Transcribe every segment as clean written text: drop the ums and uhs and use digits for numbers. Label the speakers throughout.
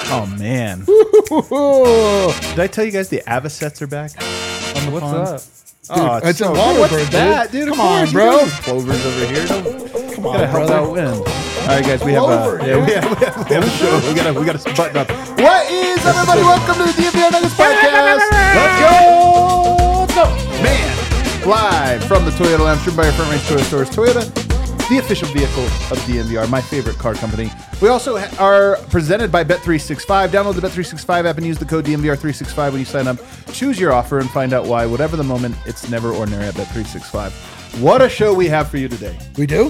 Speaker 1: Oh, man. Did I tell you guys the Avocets are back on the
Speaker 2: What's
Speaker 1: pond?
Speaker 2: up?
Speaker 1: Oh,
Speaker 3: it's a
Speaker 1: so
Speaker 3: water
Speaker 1: what's
Speaker 3: bird,
Speaker 1: that, dude?
Speaker 3: Come on, bro.
Speaker 1: Plovers over here.
Speaker 3: Come on,
Speaker 1: Gotta help
Speaker 3: brother.
Speaker 1: out win. All right, guys, we have we have a show. We gotta button up. What is everybody? Welcome to the DNVR Nuggets podcast. Let's go. Man, live from the Toyota Lounge, driven by our Front Range Toyota Stores. Toyota, the official vehicle of DNVR, my favorite car company. We also are presented by Bet365. Download the Bet365 app and use the code DNVR365 when you sign up. Choose your offer and find out why. Whatever the moment, it's never ordinary at Bet365. What a show we have for you today.
Speaker 3: We do?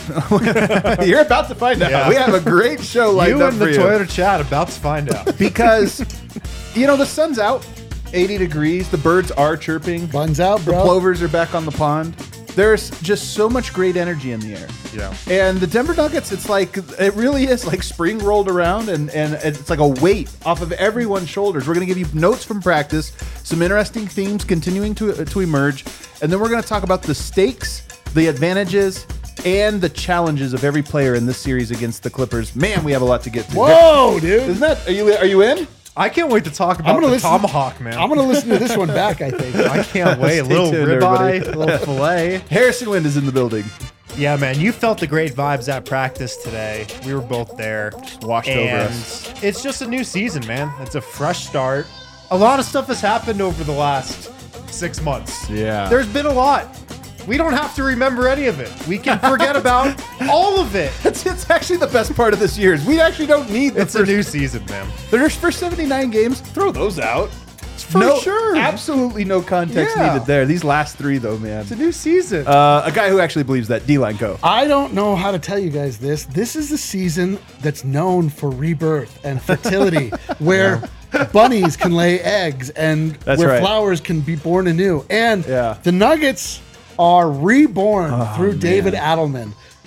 Speaker 1: You're about to find out.
Speaker 2: Yeah.
Speaker 1: We have a great show lined
Speaker 2: You
Speaker 1: up
Speaker 2: and
Speaker 1: for
Speaker 2: the
Speaker 1: you.
Speaker 2: Toyota chat about to find out.
Speaker 1: Because, you know, the sun's out, 80 degrees. The birds are chirping.
Speaker 3: Buns out,
Speaker 1: The
Speaker 3: bro.
Speaker 1: plovers are back on the pond. There's just so much great energy in the air.
Speaker 2: Yeah.
Speaker 1: And the Denver Nuggets, it's like, it really is like spring rolled around and it's like a weight off of everyone's shoulders. We're going to give you notes from practice, some interesting themes continuing to emerge, and then we're going to talk about the stakes, the advantages, and the challenges of every player in this series against the Clippers. Man, we have a lot to get to.
Speaker 3: Whoa, dude.
Speaker 1: Isn't that, are you in?
Speaker 2: I can't wait to talk
Speaker 3: I'm
Speaker 2: about
Speaker 3: gonna
Speaker 2: the
Speaker 3: listen-
Speaker 2: tomahawk, man.
Speaker 3: I'm going to listen to this one back, I think.
Speaker 2: I can't wait. A
Speaker 1: Stay
Speaker 2: little
Speaker 1: tuned,
Speaker 2: ribeye,
Speaker 1: everybody.
Speaker 2: a little filet.
Speaker 1: Harrison Wind is in the building.
Speaker 2: Yeah, man, you felt the great vibes at practice today. We were both there.
Speaker 1: Washed over
Speaker 2: and
Speaker 1: us.
Speaker 2: it's just a new season, man. It's a fresh start. A lot of stuff has happened over the last 6 months.
Speaker 1: Yeah.
Speaker 2: There's been a lot. We don't have to remember any of it. We can forget about all of it.
Speaker 1: It's actually the best part of this year. Is we actually don't need the
Speaker 2: It's a
Speaker 1: first,
Speaker 2: new season, man.
Speaker 1: the first 79 games. Throw those out.
Speaker 2: For sure.
Speaker 1: Absolutely no context
Speaker 2: Yeah.
Speaker 1: needed there. These last three, though, man.
Speaker 2: It's a new season.
Speaker 1: A guy who actually believes that. D-Line, go.
Speaker 3: I don't know how to tell you guys this. This is the season that's known for rebirth and fertility, where bunnies can lay eggs and
Speaker 1: That's
Speaker 3: where
Speaker 1: right.
Speaker 3: flowers can be born anew. And
Speaker 1: Yeah.
Speaker 3: the Nuggets are reborn through
Speaker 1: man.
Speaker 3: David Adelman.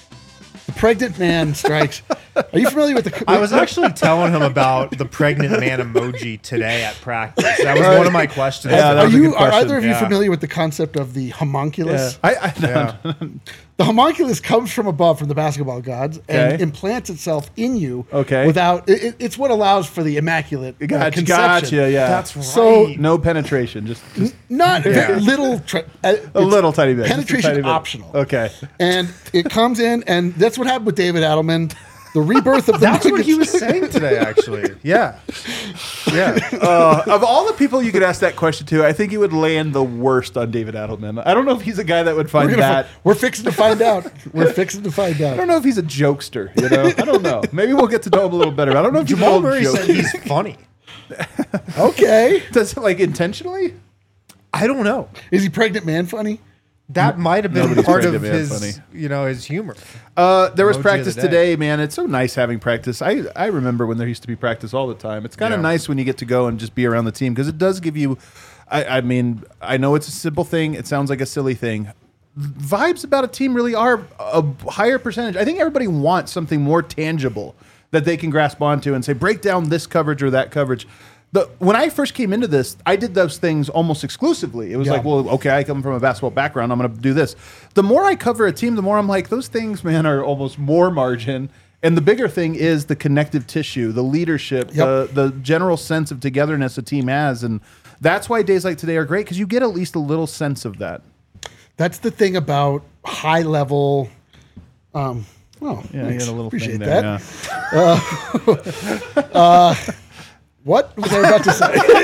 Speaker 3: The pregnant man strikes. Are you familiar with the?
Speaker 2: I was actually telling him about the pregnant man emoji today at practice. That was one of my questions.
Speaker 1: Yeah, that
Speaker 3: Are
Speaker 1: was a good
Speaker 3: are
Speaker 1: question.
Speaker 3: either of you
Speaker 2: Yeah.
Speaker 3: familiar with the concept of the homunculus?
Speaker 2: Yeah.
Speaker 3: The homunculus comes from above, from the basketball gods, and
Speaker 1: Okay.
Speaker 3: implants itself in you.
Speaker 1: Okay.
Speaker 3: Without it's what allows for the immaculate
Speaker 1: Gotcha,
Speaker 3: conception.
Speaker 1: yeah.
Speaker 2: That's right.
Speaker 3: So
Speaker 1: No penetration, just
Speaker 3: not very little.
Speaker 1: a little tiny bit. Just a
Speaker 3: Penetration
Speaker 1: tiny bit.
Speaker 3: optional.
Speaker 1: Okay.
Speaker 3: And it comes in, and that's what happened with David Adelman. The rebirth of the
Speaker 2: That's what he was
Speaker 3: Nuggets.
Speaker 2: saying today, actually. Yeah. Yeah.
Speaker 1: Of all the people you could ask that question to, I think he would land the worst on David Adelman. I don't know if he's a guy that would find that.
Speaker 3: We're fixing to find out. We're fixing to find
Speaker 1: I don't
Speaker 3: out.
Speaker 1: know if he's a jokester, you know? I don't know. Maybe we'll get to know him a little better. I don't know if he's
Speaker 2: Jamal
Speaker 1: an old
Speaker 2: Murray
Speaker 1: joke.
Speaker 2: said he's funny.
Speaker 3: Okay.
Speaker 1: Does it like intentionally?
Speaker 2: I don't know.
Speaker 3: Is he pregnant man funny?
Speaker 2: That might have been
Speaker 1: Nobody's
Speaker 2: part of
Speaker 1: pregnant man
Speaker 2: his,
Speaker 1: funny.
Speaker 2: his humor.
Speaker 1: There was
Speaker 2: Emoji of
Speaker 1: practice
Speaker 2: the day.
Speaker 1: today, man. It's so nice having practice. I remember when there used to be practice all the time. It's kind of
Speaker 2: Yeah.
Speaker 1: nice when you get to go and just be around the team because it does give you. I mean, I know it's a simple thing. It sounds like a silly thing. Vibes about a team really are a higher percentage. I think everybody wants something more tangible that they can grasp onto and say, break down this coverage or that coverage. When I first came into this, I did those things almost exclusively. It was
Speaker 3: Yeah.
Speaker 1: like, well, okay, I come from a basketball background. I'm going to do this. The more I cover a team, the more I'm like, those things, man, are almost more margin. And the bigger thing is the connective tissue, the leadership,
Speaker 3: Yep.
Speaker 1: the general sense of togetherness a team has. And that's why days like today are great because you get at least a little sense of that.
Speaker 3: That's the thing about high level. Oh,
Speaker 1: Yeah,
Speaker 3: thanks.
Speaker 1: you get a little
Speaker 3: Appreciate
Speaker 1: thing there.
Speaker 3: that.
Speaker 1: Yeah.
Speaker 3: What was I about to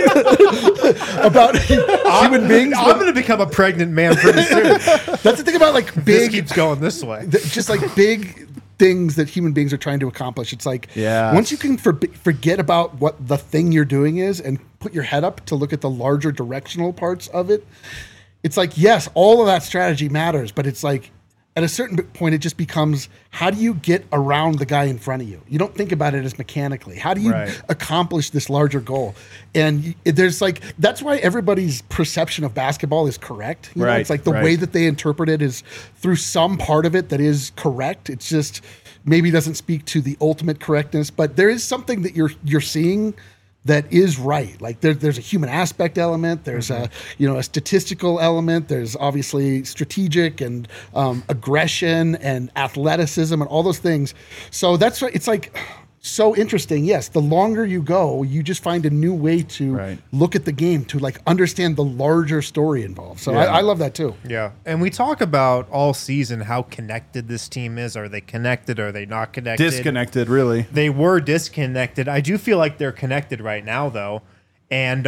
Speaker 3: say about human beings?
Speaker 2: I'm going to become a pregnant man pretty soon.
Speaker 3: That's the thing about like
Speaker 2: This
Speaker 3: big,
Speaker 2: keeps going this way.
Speaker 3: just like big things that human beings are trying to accomplish. It's like
Speaker 1: Yes.
Speaker 3: once you can forget about what the thing you're doing is and put your head up to look at the larger directional parts of it. It's like, yes, all of that strategy matters, but it's like at a certain point, it just becomes, how do you get around the guy in front of you? You don't think about it as mechanically. How do you
Speaker 1: Right.
Speaker 3: accomplish this larger goal? And there's like, that's why everybody's perception of basketball is correct. You know,
Speaker 1: Right,
Speaker 3: it's like the
Speaker 1: right.
Speaker 3: way that they interpret it is through some part of it that is correct. It's just maybe doesn't speak to the ultimate correctness, but there is something that you're seeing that is right. Like there's a human aspect element. There's a statistical element. There's obviously strategic and aggression and athleticism and all those things. So that's right. It's like so interesting. Yes, the longer you go, you just find a new way to
Speaker 1: Right.
Speaker 3: look at the game, to like understand the larger story involved. So
Speaker 1: Yeah.
Speaker 3: I love that too.
Speaker 2: Yeah. And we talk about all season how connected this team is. Are they connected? Are they not connected?
Speaker 1: Disconnected, really.
Speaker 2: They were disconnected. I do feel like they're connected right now, though. And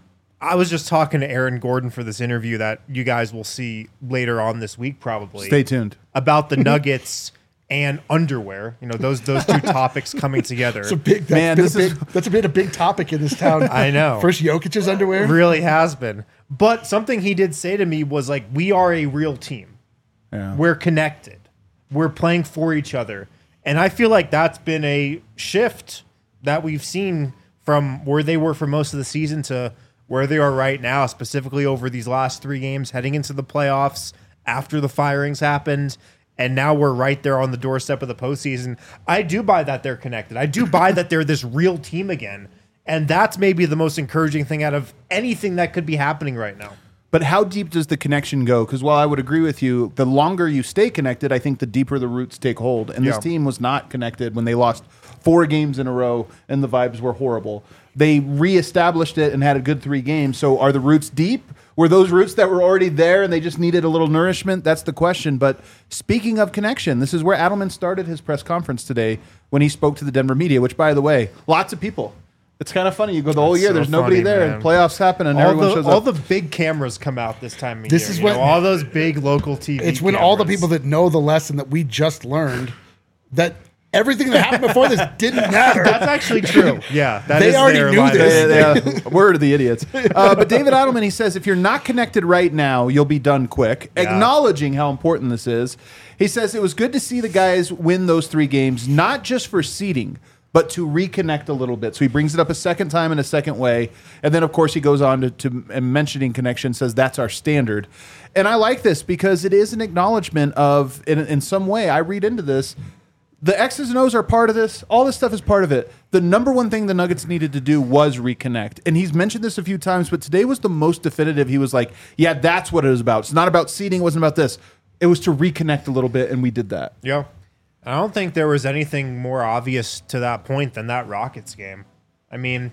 Speaker 2: I was just talking to Aaron Gordon for this interview that you guys will see later on this week, probably.
Speaker 1: Stay tuned.
Speaker 2: About the Nuggets and underwear. You know, those two topics coming together.
Speaker 3: It's a big.
Speaker 1: Man,
Speaker 3: That's been a big topic in this town.
Speaker 2: I know.
Speaker 3: First Jokic's underwear.
Speaker 2: Really has been. But something he did say to me was like, we are a real team.
Speaker 1: Yeah.
Speaker 2: We're connected. We're playing for each other. And I feel like that's been a shift that we've seen from where they were for most of the season to where they are right now, specifically over these last 3 games, heading into the playoffs after the firings happened. And now we're right there on the doorstep of the postseason. I do buy that they're connected. I do buy that they're this real team again. And that's maybe the most encouraging thing out of anything that could be happening right now.
Speaker 1: But how deep does the connection go? Because while I would agree with you, the longer you stay connected, I think the deeper the roots take hold. And this
Speaker 2: Yeah.
Speaker 1: team was not connected when they lost 4 games in a row and the vibes were horrible. They reestablished it and had a good 3 games. So are the roots deep? Were those roots that were already there and they just needed a little nourishment? That's the question. But speaking of connection, this is where Adelman started his press conference today when he spoke to the Denver media, which, by the way, lots of people. It's kind of funny. You go the whole
Speaker 2: That's
Speaker 1: year,
Speaker 2: so
Speaker 1: there's nobody
Speaker 2: funny,
Speaker 1: there,
Speaker 2: man.
Speaker 1: and playoffs happen, and
Speaker 2: All
Speaker 1: everyone shows
Speaker 2: all
Speaker 1: up.
Speaker 2: the big cameras come out this time of
Speaker 3: This
Speaker 2: year.
Speaker 3: is
Speaker 2: you
Speaker 3: when-
Speaker 2: know, all those big local TV
Speaker 3: It's when all the
Speaker 2: cameras.
Speaker 3: people that know the lesson that we just learned, that everything that happened before this didn't matter.
Speaker 2: That's actually true. Yeah. that
Speaker 3: They
Speaker 2: is
Speaker 3: already
Speaker 2: their
Speaker 3: knew
Speaker 2: line of
Speaker 3: this.
Speaker 2: thinking.
Speaker 1: Yeah, word of the idiots. But David Adelman, he says, if you're not connected right now, you'll be done quick.
Speaker 2: Yeah.
Speaker 1: Acknowledging how important this is. He says it was good to see the guys win those 3 games, not just for seeding, but to reconnect a little bit. So he brings it up a second time in a second way. And then, of course, he goes on to and mentioning connection, says that's our standard. And I like this because it is an acknowledgement of, in some way, I read into this, the X's and O's are part of this. All this stuff is part of it. The number one thing the Nuggets needed to do was reconnect. And he's mentioned this a few times, but today was the most definitive. He was like, yeah, that's what it was about. It's not about seeding. It wasn't about this. It was to reconnect a little bit, and we did that.
Speaker 2: Yeah. I don't think there was anything more obvious to that point than that Rockets game. I mean,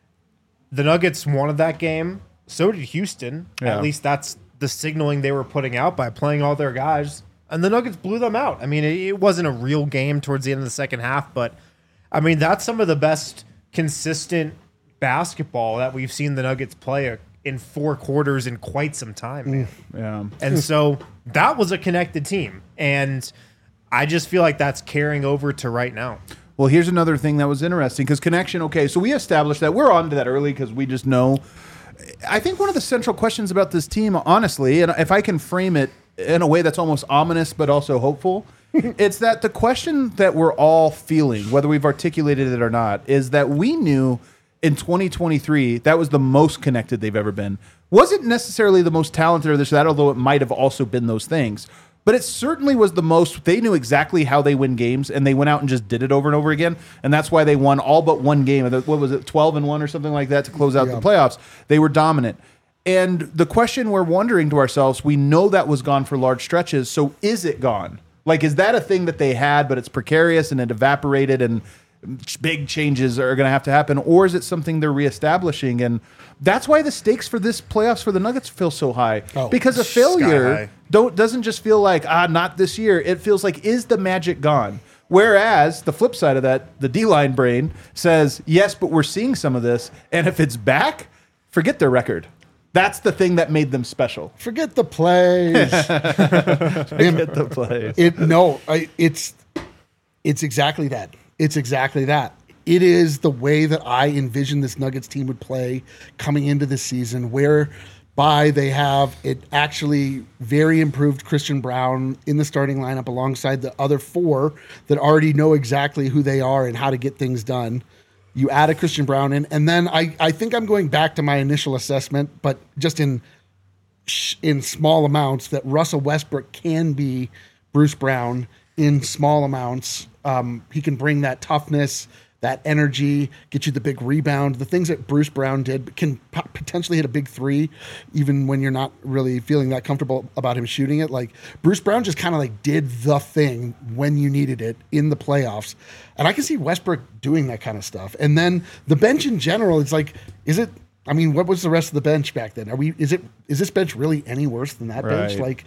Speaker 2: the Nuggets wanted that game. So did Houston.
Speaker 1: Yeah.
Speaker 2: At least that's the signaling they were putting out by playing all their guys. And the Nuggets blew them out. I mean, it wasn't a real game towards the end of the second half, but I mean, that's some of the best consistent basketball that we've seen the Nuggets play in 4 quarters in quite some time, man.
Speaker 1: Yeah.
Speaker 2: And so that was a connected team. And I just feel like that's carrying over to right now.
Speaker 1: Well, here's another thing that was interesting because connection. Okay, so we established that. We're on to that early because we just know. I think one of the central questions about this team, honestly, and if I can frame it in a way that's almost ominous but also hopeful, it's that the question that we're all feeling, whether we've articulated it or not, is that we knew in 2023 that was the most connected they've ever been. Wasn't necessarily the most talented or this or that, although it might have also been those things. But it certainly was the most. They knew exactly how they win games, and they went out and just did it over and over again. And that's why they won all but one game. What was it, 12-1 or something like that to close out the playoffs? They were dominant. And the question we're wondering to ourselves, we know that was gone for large stretches. So is it gone? Like, is that a thing that they had, but it's precarious and it evaporated and big changes are going to have to happen? Or is it something they're reestablishing? And that's why the stakes for this playoffs for the Nuggets feel so high. Because a failure doesn't just feel like, not this year. It feels like, is the magic gone? Whereas the flip side of that, the D-line brain says, yes, but we're seeing some of this. And if it's back, forget their record. That's the thing that made them special.
Speaker 3: Forget the plays.
Speaker 1: Forget the plays.
Speaker 3: It's exactly that. It's exactly that. It is the way that I envisioned this Nuggets team would play coming into this season, whereby they have it actually very improved Christian Braun in the starting lineup alongside the other 4 that already know exactly who they are and how to get things done. You add a Christian Braun in, and then I think I'm going back to my initial assessment, but just in small amounts, that Russell Westbrook can be Bruce Brown in small amounts. He can bring that toughness, that energy, get you the big rebound. The things that Bruce Brown did can potentially hit a big three, even when you're not really feeling that comfortable about him shooting it. Like Bruce Brown just kind of like did the thing when you needed it in the playoffs. And I can see Westbrook doing that kind of stuff. And then the bench in general, it's like, what was the rest of the bench back then? Is this bench really any worse than that bench? Like,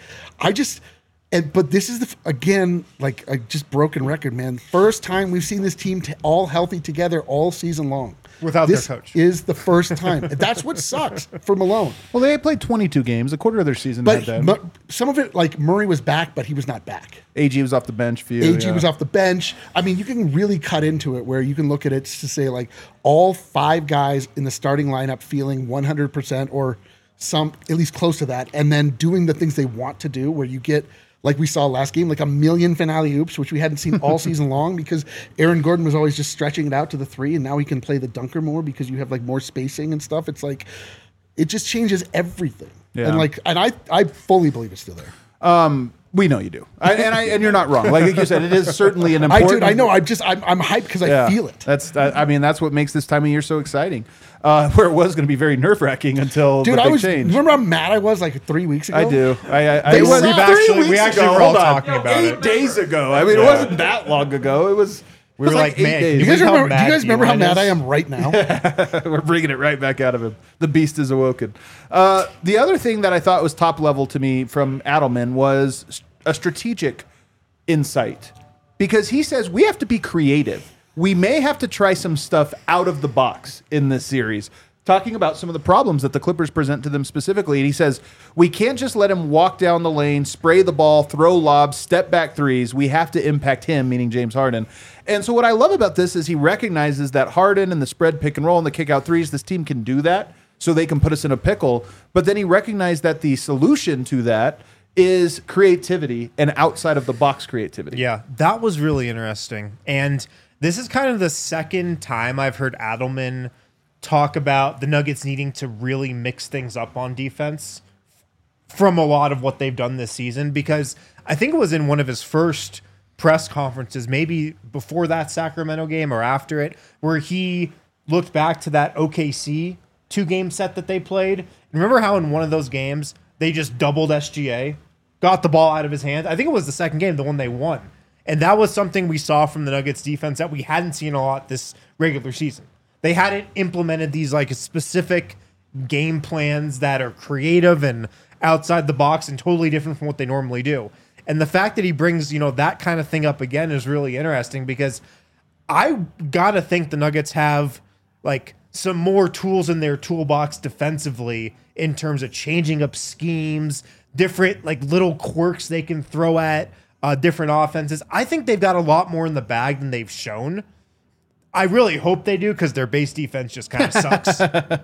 Speaker 3: but this is again, like a just broken record, man. First time we've seen this team all healthy together all season long.
Speaker 2: Without their coach.
Speaker 3: This is the first time. That's what sucks for Malone.
Speaker 1: Well, they played 22 games, a quarter of their season.
Speaker 3: But some of it, like Murray was back, but he was not back.
Speaker 1: AG was off the bench.
Speaker 3: AG was off the bench. I mean, you can really cut into it where you can look at it to say like all 5 guys in the starting lineup feeling 100% or some at least close to that, and then doing the things they want to do where you get, like we saw last game, like a million finale oops, which we hadn't seen all season long because Aaron Gordon was always just stretching it out to the 3, and now he can play the dunker more because you have like more spacing and stuff. It's like, it just changes everything.
Speaker 1: Yeah.
Speaker 3: And I fully believe it's still there.
Speaker 1: We know you do, and you're not wrong. Like you said, it is certainly an important.
Speaker 3: I know. I'm hyped because I feel it.
Speaker 1: That's what makes this time of year so exciting. Where it was going to be very nerve wracking until the big change.
Speaker 3: Remember how mad I was like 3 weeks ago?
Speaker 1: I do.
Speaker 2: We actually were all talking about it
Speaker 1: 8 days ago. I mean, it wasn't that long ago. It was.
Speaker 2: We were like, man,
Speaker 3: do you guys remember how mad I am right now?
Speaker 1: We're bringing it right back out of him. The beast is awoken. The other thing that I thought was top level to me from Adelman was a strategic insight, because he says we have to be creative. We may have to try some stuff out of the box in this series, talking about some of the problems that the Clippers present to them specifically. And he says, we can't just let him walk down the lane, spray the ball, throw lobs, step back threes. We have to impact him, meaning James Harden. And so what I love about this is he recognizes that Harden and the spread pick and roll and the kick out threes, this team can do that, so they can put us in a pickle. But then he recognized that the solution to that is creativity and outside of the box creativity.
Speaker 2: Yeah, that was really interesting. And this is kind of the second time I've heard Adelman talk about the Nuggets needing to really mix things up on defense from a lot of what they've done this season, because I think it was in one of his first press conferences, maybe before that Sacramento game or after it, where he looked back to that OKC 2-game set that they played. And remember how in one of those games they just doubled SGA, got the ball out of his hands? I think it was the second game, the one they won. And that was something we saw from the Nuggets defense that we hadn't seen a lot this regular season. They hadn't implemented these like specific game plans that are creative and outside the box and totally different from what they normally do. And the fact that he brings, that kind of thing up again is really interesting, because I got to think the Nuggets have like some more tools in their toolbox defensively in terms of changing up schemes, different like little quirks they can throw at different offenses. I think they've got a lot more in the bag than they've shown. I really hope they do, because their base defense just kind of sucks.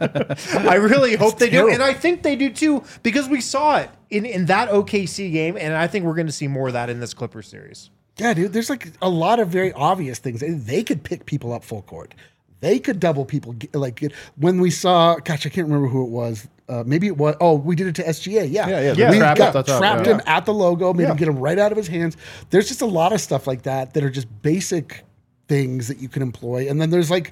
Speaker 2: I really hope they do. And I think they do too, because we saw it in that OKC game, and I think we're going to see more of that in this Clippers series.
Speaker 3: Yeah, dude, there's like a lot of very obvious things. They could pick people up full court. They could double people. Like when we saw, gosh, I can't remember who it was. Maybe it was, we did it to SGA. Yeah.
Speaker 1: We
Speaker 3: trapped him at the logo, made him get him right out of his hands. There's just a lot of stuff like that are just basic things that you can employ. And then there's like,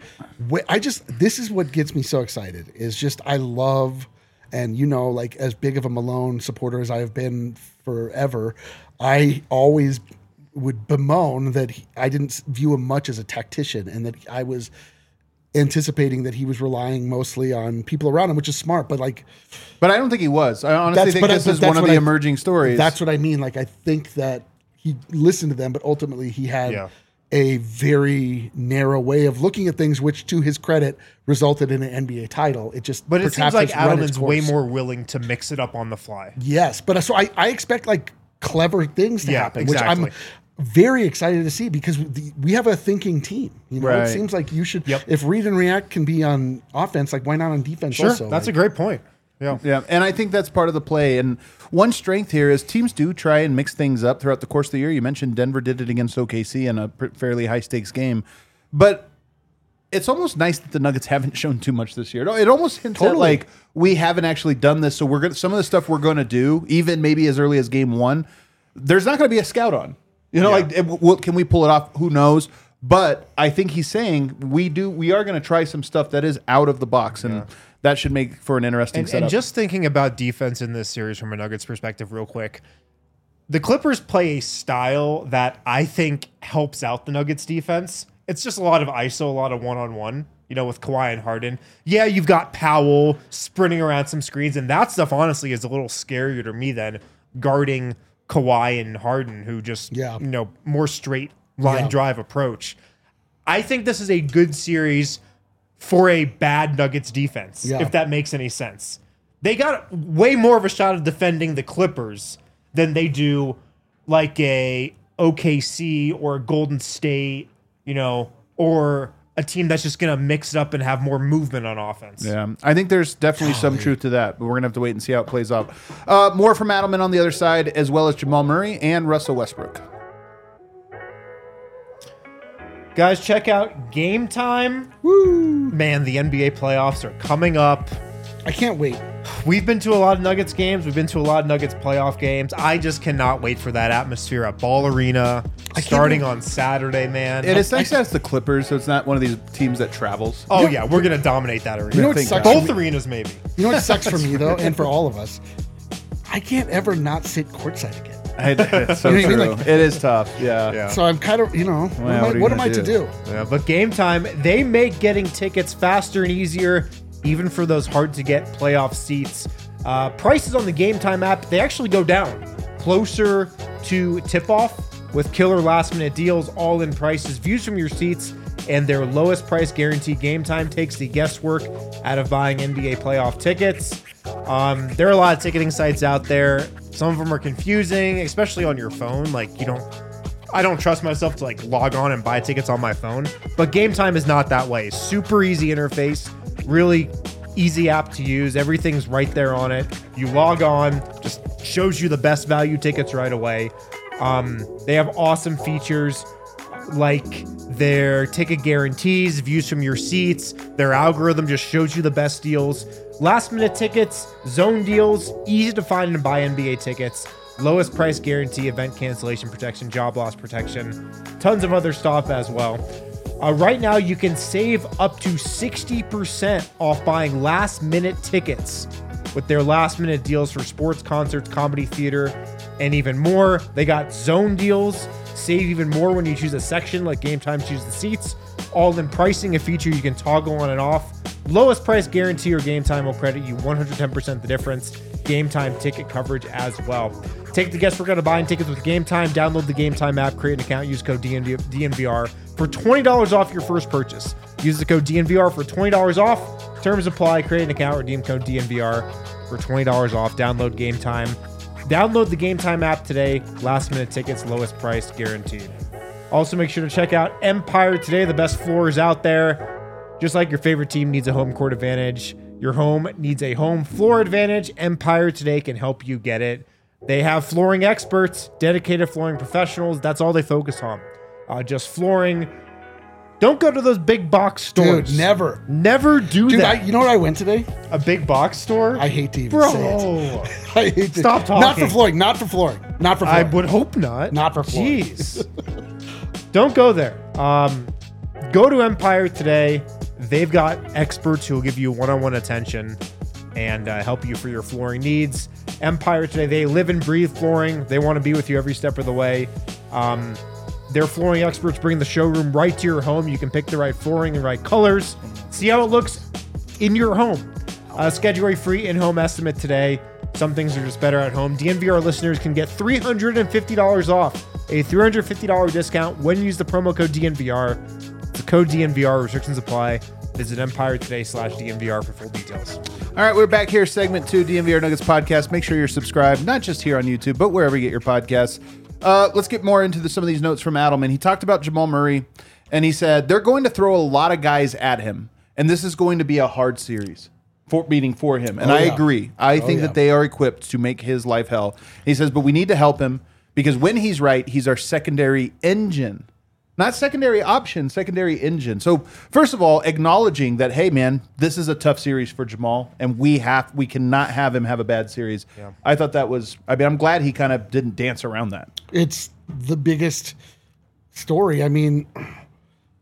Speaker 3: this is what gets me so excited, is just, I love, and like as big of a Malone supporter as I have been forever, I always would bemoan that I didn't view him much as a tactician, and that I was anticipating that he was relying mostly on people around him, which is smart, but
Speaker 1: I don't think he was. I honestly think this is one of the emerging stories.
Speaker 3: That's what I mean. Like, I think that he listened to them, but ultimately he had a very narrow way of looking at things, which to his credit resulted in an NBA title.
Speaker 2: But it seems like Adelman's way more willing to mix it up on the fly.
Speaker 3: Yes. But so I expect like clever things to happen,
Speaker 2: exactly.
Speaker 3: Which I'm very excited to see, because we have a thinking team. It seems like you should, if read and react can be on offense, like why not on defense also?
Speaker 2: That's a great point.
Speaker 1: Yeah. And I think that's part of the play. And one strength here is teams do try and mix things up throughout the course of the year. You mentioned Denver did it against OKC in a fairly high stakes game, but it's almost nice that the Nuggets haven't shown too much this year. It almost hints at like, we haven't actually done this. So we're going to, some of the stuff we're going to do, even maybe as early as game 1, there's not going to be a scout on, like, can we pull it off? Who knows? But I think he's saying we are going to try some stuff that is out of the box, and that should make for an interesting setup.
Speaker 2: And just thinking about defense in this series from a Nuggets perspective real quick, the Clippers play a style that I think helps out the Nuggets defense. It's just a lot of ISO, a lot of one-on-one, with Kawhi and Harden. Yeah, you've got Powell sprinting around some screens, and that stuff, honestly, is a little scarier to me than guarding Kawhi and Harden, who just, more straight line drive approach. I think this is a good series for a bad Nuggets defense, if that makes any sense. They got way more of a shot of defending the Clippers than they do like a OKC or a Golden State, or a team that's just going to mix it up and have more movement on offense.
Speaker 1: Yeah, I think there's definitely some truth to that, but we're going to have to wait and see how it plays out. More from Adelman on the other side, as well as Jamal Murray and Russell Westbrook.
Speaker 2: Guys, check out Game Time. Woo! Man, the NBA playoffs are coming up.
Speaker 3: I can't wait.
Speaker 2: We've been to a lot of Nuggets games. We've been to a lot of Nuggets playoff games. I just cannot wait for that atmosphere at Ball Arena starting on Saturday, man.
Speaker 1: And it's nice that it's the Clippers, so it's not one of these teams that travels.
Speaker 2: Oh, yeah. We're going to dominate that arena.
Speaker 3: You know what sucks
Speaker 2: Both arenas, maybe.
Speaker 3: You know what sucks for me, though, and for all of us? I can't ever not sit courtside again.
Speaker 1: It's so true. Like, it is tough. Yeah.
Speaker 3: So I'm kind of, what am I to do?
Speaker 2: Yeah, but Game Time, they make getting tickets faster and easier, even for those hard-to-get playoff seats. Prices on the Game Time app, they actually go down closer to tip-off with killer last-minute deals, all-in prices, views from your seats, and their lowest price guarantee. Game Time takes the guesswork out of buying NBA playoff tickets. There are a lot of ticketing sites out there. Some of them are confusing, especially on your phone. I don't trust myself to log on and buy tickets on my phone, but Game Time is not that way. Super easy interface, really easy app to use. Everything's right there on it. You log on, just shows you the best value tickets right away. They have awesome features like their ticket guarantees, views from your seats. Their algorithm just shows you the best deals. Last minute tickets, zone deals, easy to find and buy NBA tickets, lowest price guarantee, event cancellation protection, job loss protection, tons of other stuff as well. Right now, you can save up to 60% off buying last minute tickets with their last minute deals for sports, concerts, comedy, theater, and even more. They got zone deals. Save even more when you choose a section like Game Time choose the seats. All in pricing, a feature you can toggle on and off. Lowest price guarantee or Game Time will credit you 110% the difference. Game Time ticket coverage as well. Take the guesswork out of buying tickets with Game Time. Download the Game Time app, create an account, use code DNVR for $20 off your first purchase. Use the code DNVR for $20 off. Terms apply. Create an account, redeem code DNVR for $20 off. Download Game Time. Download the Game Time app today. Last minute tickets, lowest price guaranteed. Also, make sure to check out Empire Today, the best floors out there. Just like your favorite team needs a home court advantage, your home needs a home floor advantage. Empire Today can help you get it. They have flooring experts, dedicated flooring professionals. That's all they focus on. Just flooring. Don't go to those big box stores.
Speaker 3: Dude, never.
Speaker 2: Never do that.
Speaker 3: You know what I went today?
Speaker 2: A big box store?
Speaker 3: I hate to even say it. I hate to.
Speaker 2: Stop talking.
Speaker 3: Not for flooring. Not for flooring. Not for flooring.
Speaker 2: I would hope not.
Speaker 3: Not for flooring.
Speaker 2: Jeez. Don't go there. Go to Empire Today. They've got experts who will give you one-on-one attention and help you for your flooring needs. Empire Today, they live and breathe flooring. They want to be with you every step of the way. Their flooring experts bring the showroom right to your home. You can pick the right flooring and right colors. See how it looks in your home. Schedule a free in-home estimate today. Some things are just better at home. DNVR listeners can get $350 off. A $350 discount when you use the promo code DNVR. It's the code DNVR. Restrictions apply. Visit EmpireToday.com/DNVR for full details.
Speaker 1: All right, we're back here, segment 2, DNVR Nuggets podcast. Make sure you're subscribed, not just here on YouTube, but wherever you get your podcasts. Let's get more into some of these notes from Adelman. He talked about Jamal Murray, and he said they're going to throw a lot of guys at him, and this is going to be a hard series for him. And I agree. I think that they are equipped to make his life hell. He says, but we need to help him because when he's right, he's our secondary engine. Not secondary option, secondary engine. So first of all, acknowledging that, hey man, this is a tough series for Jamal, and we cannot have him have a bad series. Yeah. I thought that was. I mean, I'm glad he kind of didn't dance around that.
Speaker 3: It's the biggest story. I mean,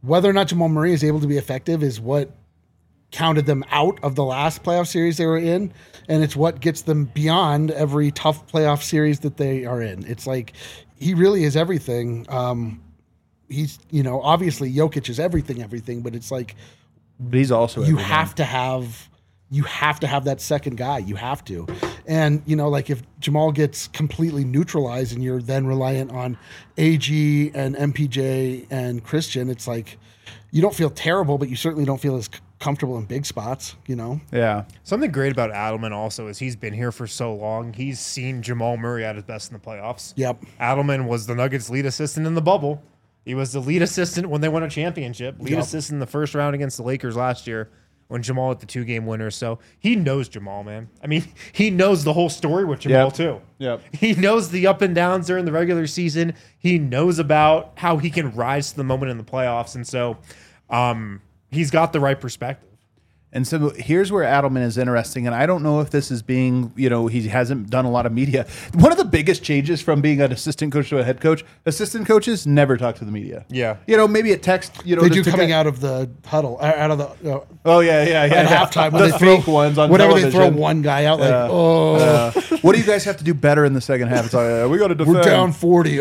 Speaker 3: whether or not Jamal Murray is able to be effective is what counted them out of the last playoff series they were in, and it's what gets them beyond every tough playoff series that they are in. It's like he really is everything. He's, obviously Jokic is everything, but it's like
Speaker 1: But he's also
Speaker 3: you have to have that second guy. You have to. And, like if Jamal gets completely neutralized and you're then reliant on AG and MPJ and Christian, it's like you don't feel terrible, but you certainly don't feel as comfortable in big spots,
Speaker 1: Yeah.
Speaker 2: Something great about Adelman also is he's been here for so long. He's seen Jamal Murray at his best in the playoffs.
Speaker 3: Yep.
Speaker 2: Adelman was the Nuggets' lead assistant in the bubble. He was the lead assistant when they won a championship. Lead assistant in the first round against the Lakers last year when Jamal hit the 2-game winner. So he knows Jamal, man. I mean, he knows the whole story with Jamal too.
Speaker 1: Yep.
Speaker 2: He knows the up and downs during the regular season. He knows about how he can rise to the moment in the playoffs. And so he's got the right perspective.
Speaker 1: And so here's where Adelman is interesting, and I don't know if this is being, he hasn't done a lot of media. One of the biggest changes from being an assistant coach to a head coach, assistant coaches never talk to the media.
Speaker 2: Yeah.
Speaker 1: Maybe a text,
Speaker 3: they do coming out of the huddle, out of the
Speaker 1: oh yeah,
Speaker 3: at halftime when
Speaker 1: the
Speaker 3: they throw
Speaker 1: fake ones on
Speaker 3: whenever
Speaker 1: television.
Speaker 3: they throw one guy out,
Speaker 1: what do you guys have to do better in the second half? It's like, we got to defend.
Speaker 3: we're down 40.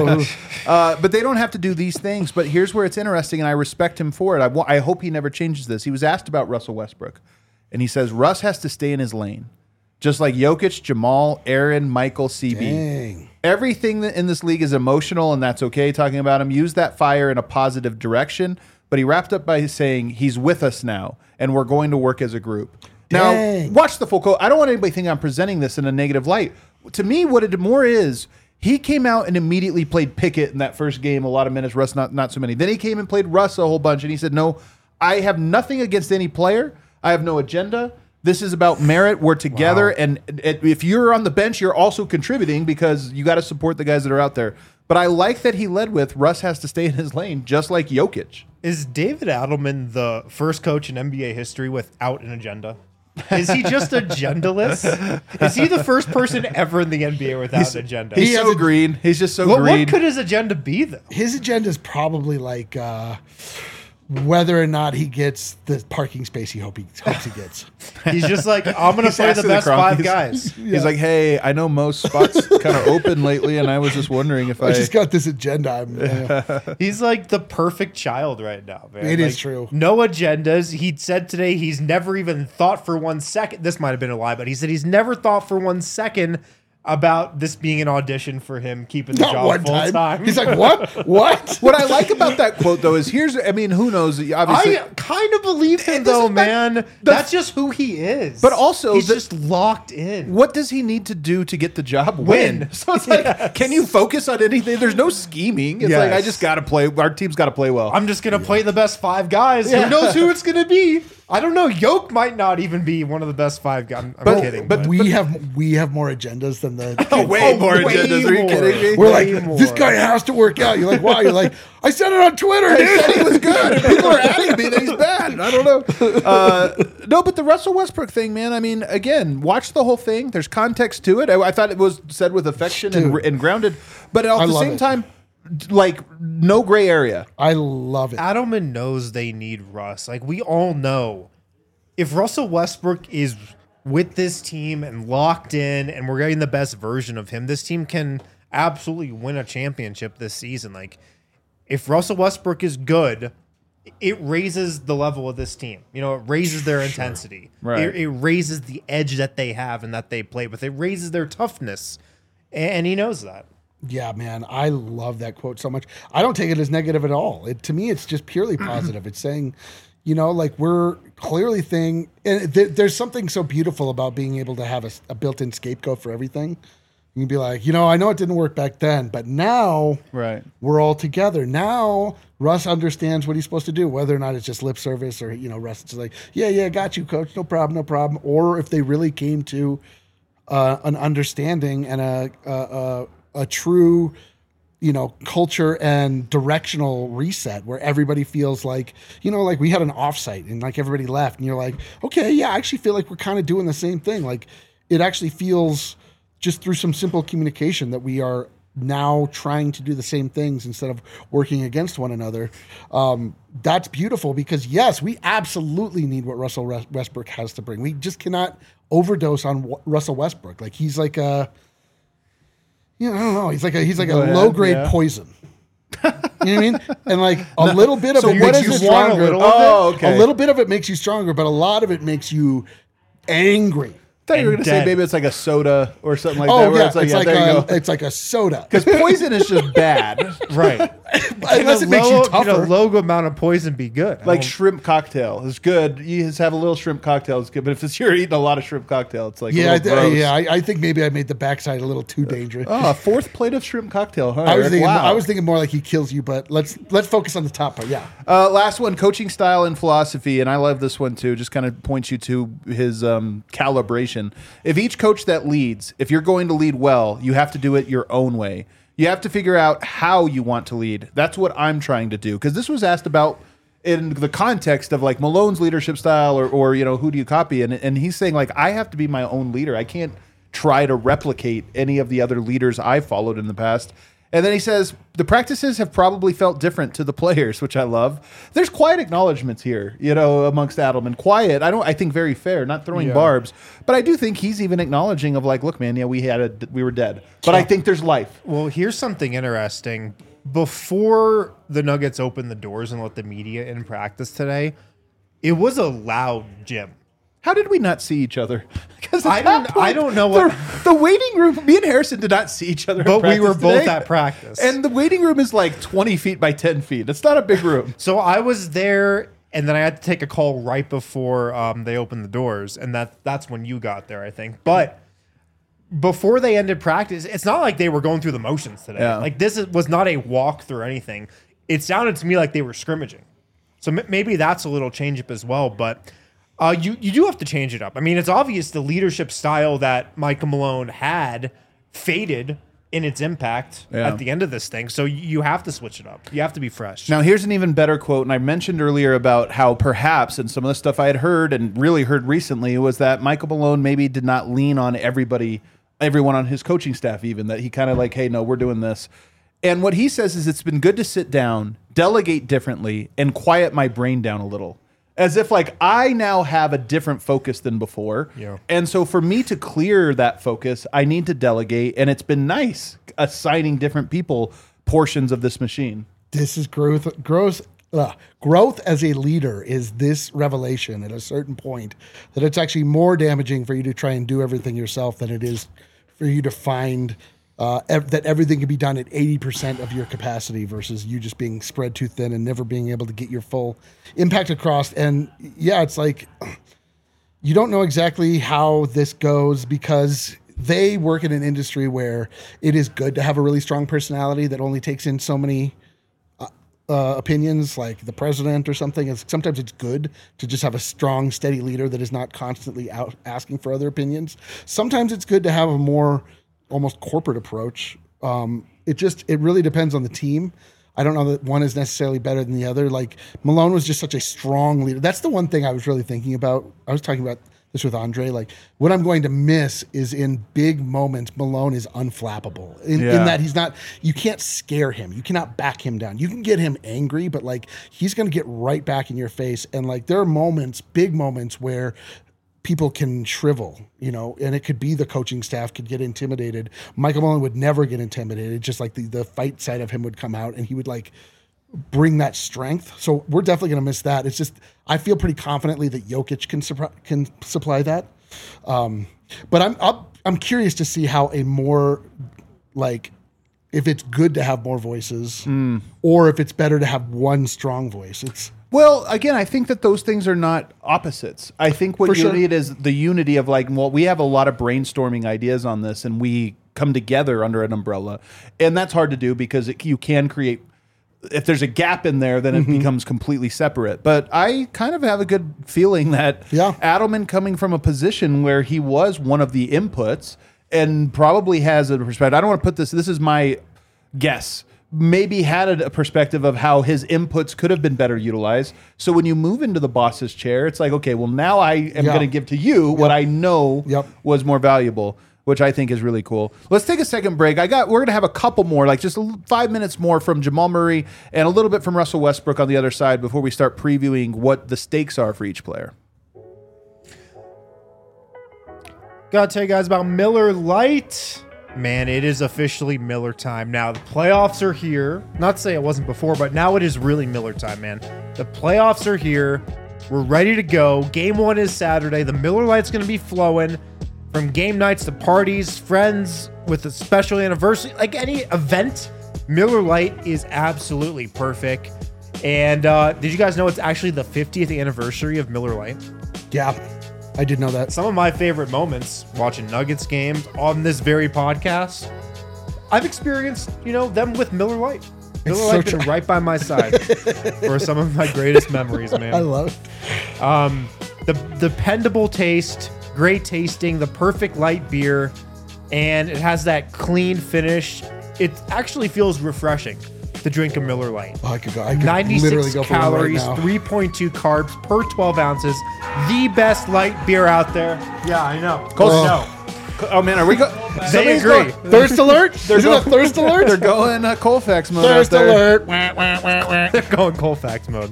Speaker 1: But they don't have to do these things. But here's where it's interesting, and I respect him for it. I hope he never changes this. He was asked about Russell Westbrook, and he says Russ has to stay in his lane, just like Jokic, Jamal, Aaron, Michael, CB.
Speaker 3: Dang.
Speaker 1: Everything in this league is emotional, and that's okay talking about him. Use that fire in a positive direction. But he wrapped up by saying he's with us now, and we're going to work as a group.
Speaker 3: Dang.
Speaker 1: Now, watch the full quote. I don't want anybody to think I'm presenting this in a negative light. To me, what it more is, he came out and immediately played Pickett in that first game, a lot of minutes, Russ not so many. Then he came and played Russ a whole bunch, and he said, no, I have nothing against any player. I have no agenda. This is about merit. We're together, and if you're on the bench, you're also contributing because you got to support the guys that are out there. But I like that he led with Russ has to stay in his lane, just like Jokic.
Speaker 2: Is David Adelman the first coach in NBA history without an agenda? Is he just agendaless? Is he the first person ever in the NBA without an agenda?
Speaker 1: He's so green. He's just so green.
Speaker 2: What could his agenda be, though?
Speaker 3: His agenda is probably like whether or not he gets the parking space he hopes he gets.
Speaker 2: He's just like, I'm going to play the best five guys.
Speaker 1: He's like, hey, I know most spots kind of open lately, and I was just wondering if
Speaker 3: I just got this agenda.
Speaker 2: He's like the perfect child right now, man.
Speaker 3: It is true.
Speaker 2: No agendas. He said today he's never even thought for 1 second. This might have been a lie, but he said he's never thought for 1 second about this being an audition for him keeping the job full time.
Speaker 3: He's like, what?
Speaker 1: What I like about that quote, though, is who knows? Obviously,
Speaker 2: I kind of believe him, though, man. That's just who he is.
Speaker 1: But also,
Speaker 2: he's just locked in.
Speaker 1: What does he need to do to get the job? Win. So it's like, can you focus on anything? There's no scheming. It's like, I just got to play. Our team's got to play well.
Speaker 2: I'm just going to play the best five guys. Who knows who it's going to be? I don't know. Yoke might not even be one of the best five guys. I'm kidding.
Speaker 3: But we have more agendas than the
Speaker 1: way more agendas. Are you kidding me?
Speaker 3: We're like, this guy has to work out. You're like, wow. You're like, I said it on Twitter. Dude.
Speaker 1: I said he was good. And people are adding me that he's bad. I don't know. No, but the Russell Westbrook thing, man. I mean, again, watch the whole thing. There's context to it. I thought it was said with affection and grounded, but at the same time, like, no gray area.
Speaker 3: I love it.
Speaker 2: Adelman knows they need Russ. Like, we all know if Russell Westbrook is with this team and locked in and we're getting the best version of him, this team can absolutely win a championship this season. Like, if Russell Westbrook is good, it raises the level of this team. It raises their intensity.
Speaker 1: Right.
Speaker 2: It raises the edge that they have and that they play with. It raises their toughness. And he knows that.
Speaker 3: Yeah, man, I love that quote so much. I don't take it as negative at all. To me, it's just purely positive. It's saying, like we're clearly and there's something so beautiful about being able to have a built-in scapegoat for everything. You can be like, I know it didn't work back then, but now we're all together. Now Russ understands what he's supposed to do, whether or not it's just lip service or, Russ is like, yeah, got you, coach, no problem. Or if they really came to an understanding and a true, culture and directional reset where everybody feels like, like we had an offsite and like everybody left and you're like, okay, yeah, I actually feel like we're kind of doing the same thing. Like it actually feels just through some simple communication that we are now trying to do the same things instead of working against one another. That's beautiful because, yes, we absolutely need what Russell Westbrook has to bring. We just cannot overdose on Russell Westbrook. Like, he's like a, I don't know. He's like a low-grade poison. You know what I mean? And like a little bit of it makes you stronger. A little bit of it makes you stronger, but a lot of it makes you angry.
Speaker 1: I thought you were going to say maybe it's like a soda or something like that.
Speaker 3: Where it's like a soda.
Speaker 1: Because poison is just bad.
Speaker 2: Right.
Speaker 3: Unless it makes you tougher.
Speaker 2: Can a low amount of poison be good?
Speaker 1: Like shrimp cocktail is good. You just have a little shrimp cocktail, it's good. But if you're eating a lot of shrimp cocktail, it's like
Speaker 3: I think maybe I made the backside a little too dangerous.
Speaker 1: Oh, a fourth plate of shrimp cocktail, huh?
Speaker 3: I was thinking more like he kills you, but let's focus on the top part. Yeah.
Speaker 1: Last one, coaching style and philosophy, and I love this one too. Just kind of points you to his calibration. If each coach that leads, if you're going to lead well, you have to do it your own way. You have to figure out how you want to lead. That's what I'm trying to do. Because this was asked about in the context of like Malone's leadership style or who do you copy? And he's saying like, I have to be my own leader. I can't try to replicate any of the other leaders I followed in the past. And then he says, the practices have probably felt different to the players, which I love. There's quiet acknowledgments here, amongst Adelman. Quiet, I think very fair, not throwing barbs. But I do think he's even acknowledging of like, look, man, we were dead. But I think there's life.
Speaker 2: Well, here's something interesting. Before the Nuggets opened the doors and let the media in practice today, it was a loud gym.
Speaker 1: How did we not see each other? Because
Speaker 2: I don't know what
Speaker 1: the waiting room. Me and Harrison did not see each other,
Speaker 2: but we were both at practice.
Speaker 1: And the waiting room is like 20 feet by 10 feet. It's not a big room.
Speaker 2: So I was there, and then I had to take a call right before they opened the doors, and that's when you got there, I think. But before they ended practice, it's not like they were going through the motions today.
Speaker 1: Yeah.
Speaker 2: Like was not a walk through anything. It sounded to me like they were scrimmaging. So maybe that's a little change up as well, but. You do have to change it up. I mean, it's obvious the leadership style that Michael Malone had faded in its impact at the end of this thing. So you have to switch it up. You have to be fresh.
Speaker 1: Now, here's an even better quote. And I mentioned earlier about how perhaps, and some of the stuff I had heard and really heard recently, was that Michael Malone maybe did not lean on everyone on his coaching staff even, that he kind of like, hey, no, we're doing this. And what he says is it's been good to sit down, delegate differently, and quiet my brain down a little. As if like I now have a different focus than before.
Speaker 2: Yeah. And
Speaker 1: so for me to clear that focus, I need to delegate. And it's been nice assigning different people portions of this machine.
Speaker 3: This is growth as a leader is this revelation at a certain point that it's actually more damaging for you to try and do everything yourself than it is for you to find that everything can be done at 80% of your capacity versus you just being spread too thin and never being able to get your full impact across. And yeah, it's like you don't know exactly how this goes because they work in an industry where it is good to have a really strong personality that only takes in so many opinions, like the president or something. Sometimes it's good to just have a strong, steady leader that is not constantly out asking for other opinions. Sometimes it's good to have a more almost corporate approach. It really depends on the team. I don't know that one is necessarily better than the other. Like Malone was just such a strong leader. That's the one thing I was really thinking about. I was talking about this with Andre. Like what I'm going to miss is in big moments, Malone is unflappable in that he's not, you can't scare him. You cannot back him down. You can get him angry, but like he's going to get right back in your face. And like there are moments, big moments where people can shrivel, and it could be the coaching staff could get intimidated. Michael Malone would never get intimidated. Just like the fight side of him would come out and he would like bring that strength. So we're definitely going to miss that. It's just, I feel pretty confidently that Jokic can supply that. But I'm curious to see how a more like, if it's good to have more voices or if it's better to have one strong voice.
Speaker 1: Well, again, I think that those things are not opposites. I think what you need is the unity of like, well, we have a lot of brainstorming ideas on this and we come together under an umbrella. And that's hard to do because you can create, if there's a gap in there, then it becomes completely separate. But I kind of have a good feeling that Adelman coming from a position where he was one of the inputs and probably has a perspective. I don't want to put this is my guess. Maybe had a perspective of how his inputs could have been better utilized. So when you move into the boss's chair, it's like, okay, well, now I am going to give to you what I know was more valuable. which I think is really cool. Let's take a second break. We're going to have a couple more, like just 5 minutes more from Jamal Murray and a little bit from Russell Westbrook on the other side before we start previewing what the stakes are for each player.
Speaker 2: Gotta tell you guys about Miller Lite. Man, it is officially Miller time. Now, the playoffs are here. Not to say it wasn't before, but now it is really Miller time, man. The playoffs are here. We're ready to go. Game 1 is Saturday. The Miller Lite's going to be flowing from game nights to parties, friends with a special anniversary, like any event. Miller Lite is absolutely perfect. And did you guys know it's actually the 50th anniversary of Miller Lite?
Speaker 3: Yeah, I did know that.
Speaker 2: Some of my favorite moments watching Nuggets games on this very podcast, I've experienced, them with Miller Lite. Miller Lite's been right by my side for some of my greatest memories, man.
Speaker 3: I love it.
Speaker 2: The dependable taste, great tasting, the perfect light beer, and it has that clean finish. It actually feels refreshing to drink a Miller Lite.
Speaker 3: Oh, I could literally
Speaker 2: 96
Speaker 3: go
Speaker 2: calories,
Speaker 3: for one right now.
Speaker 2: 3.2 carbs per 12 ounces. The best light beer out there. Yeah, I know.
Speaker 1: Oh, man, are we going?
Speaker 2: They agree.
Speaker 3: Thirst alert? Is it a thirst alert?
Speaker 1: They're going Colfax mode
Speaker 3: Thirst
Speaker 1: out there.
Speaker 3: alert.
Speaker 2: They're going Colfax mode,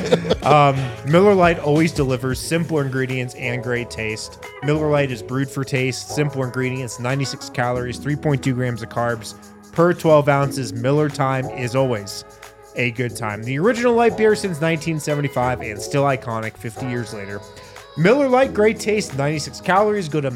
Speaker 2: man. Miller Lite always delivers simpler ingredients and great taste. Miller Lite is brewed for taste, simpler ingredients, 96 calories, 3.2 grams of carbs per 12 ounces. Miller time is always a good time. The original light beer since 1975 and still iconic 50 years later. Miller Lite, great taste, 96 calories. Go to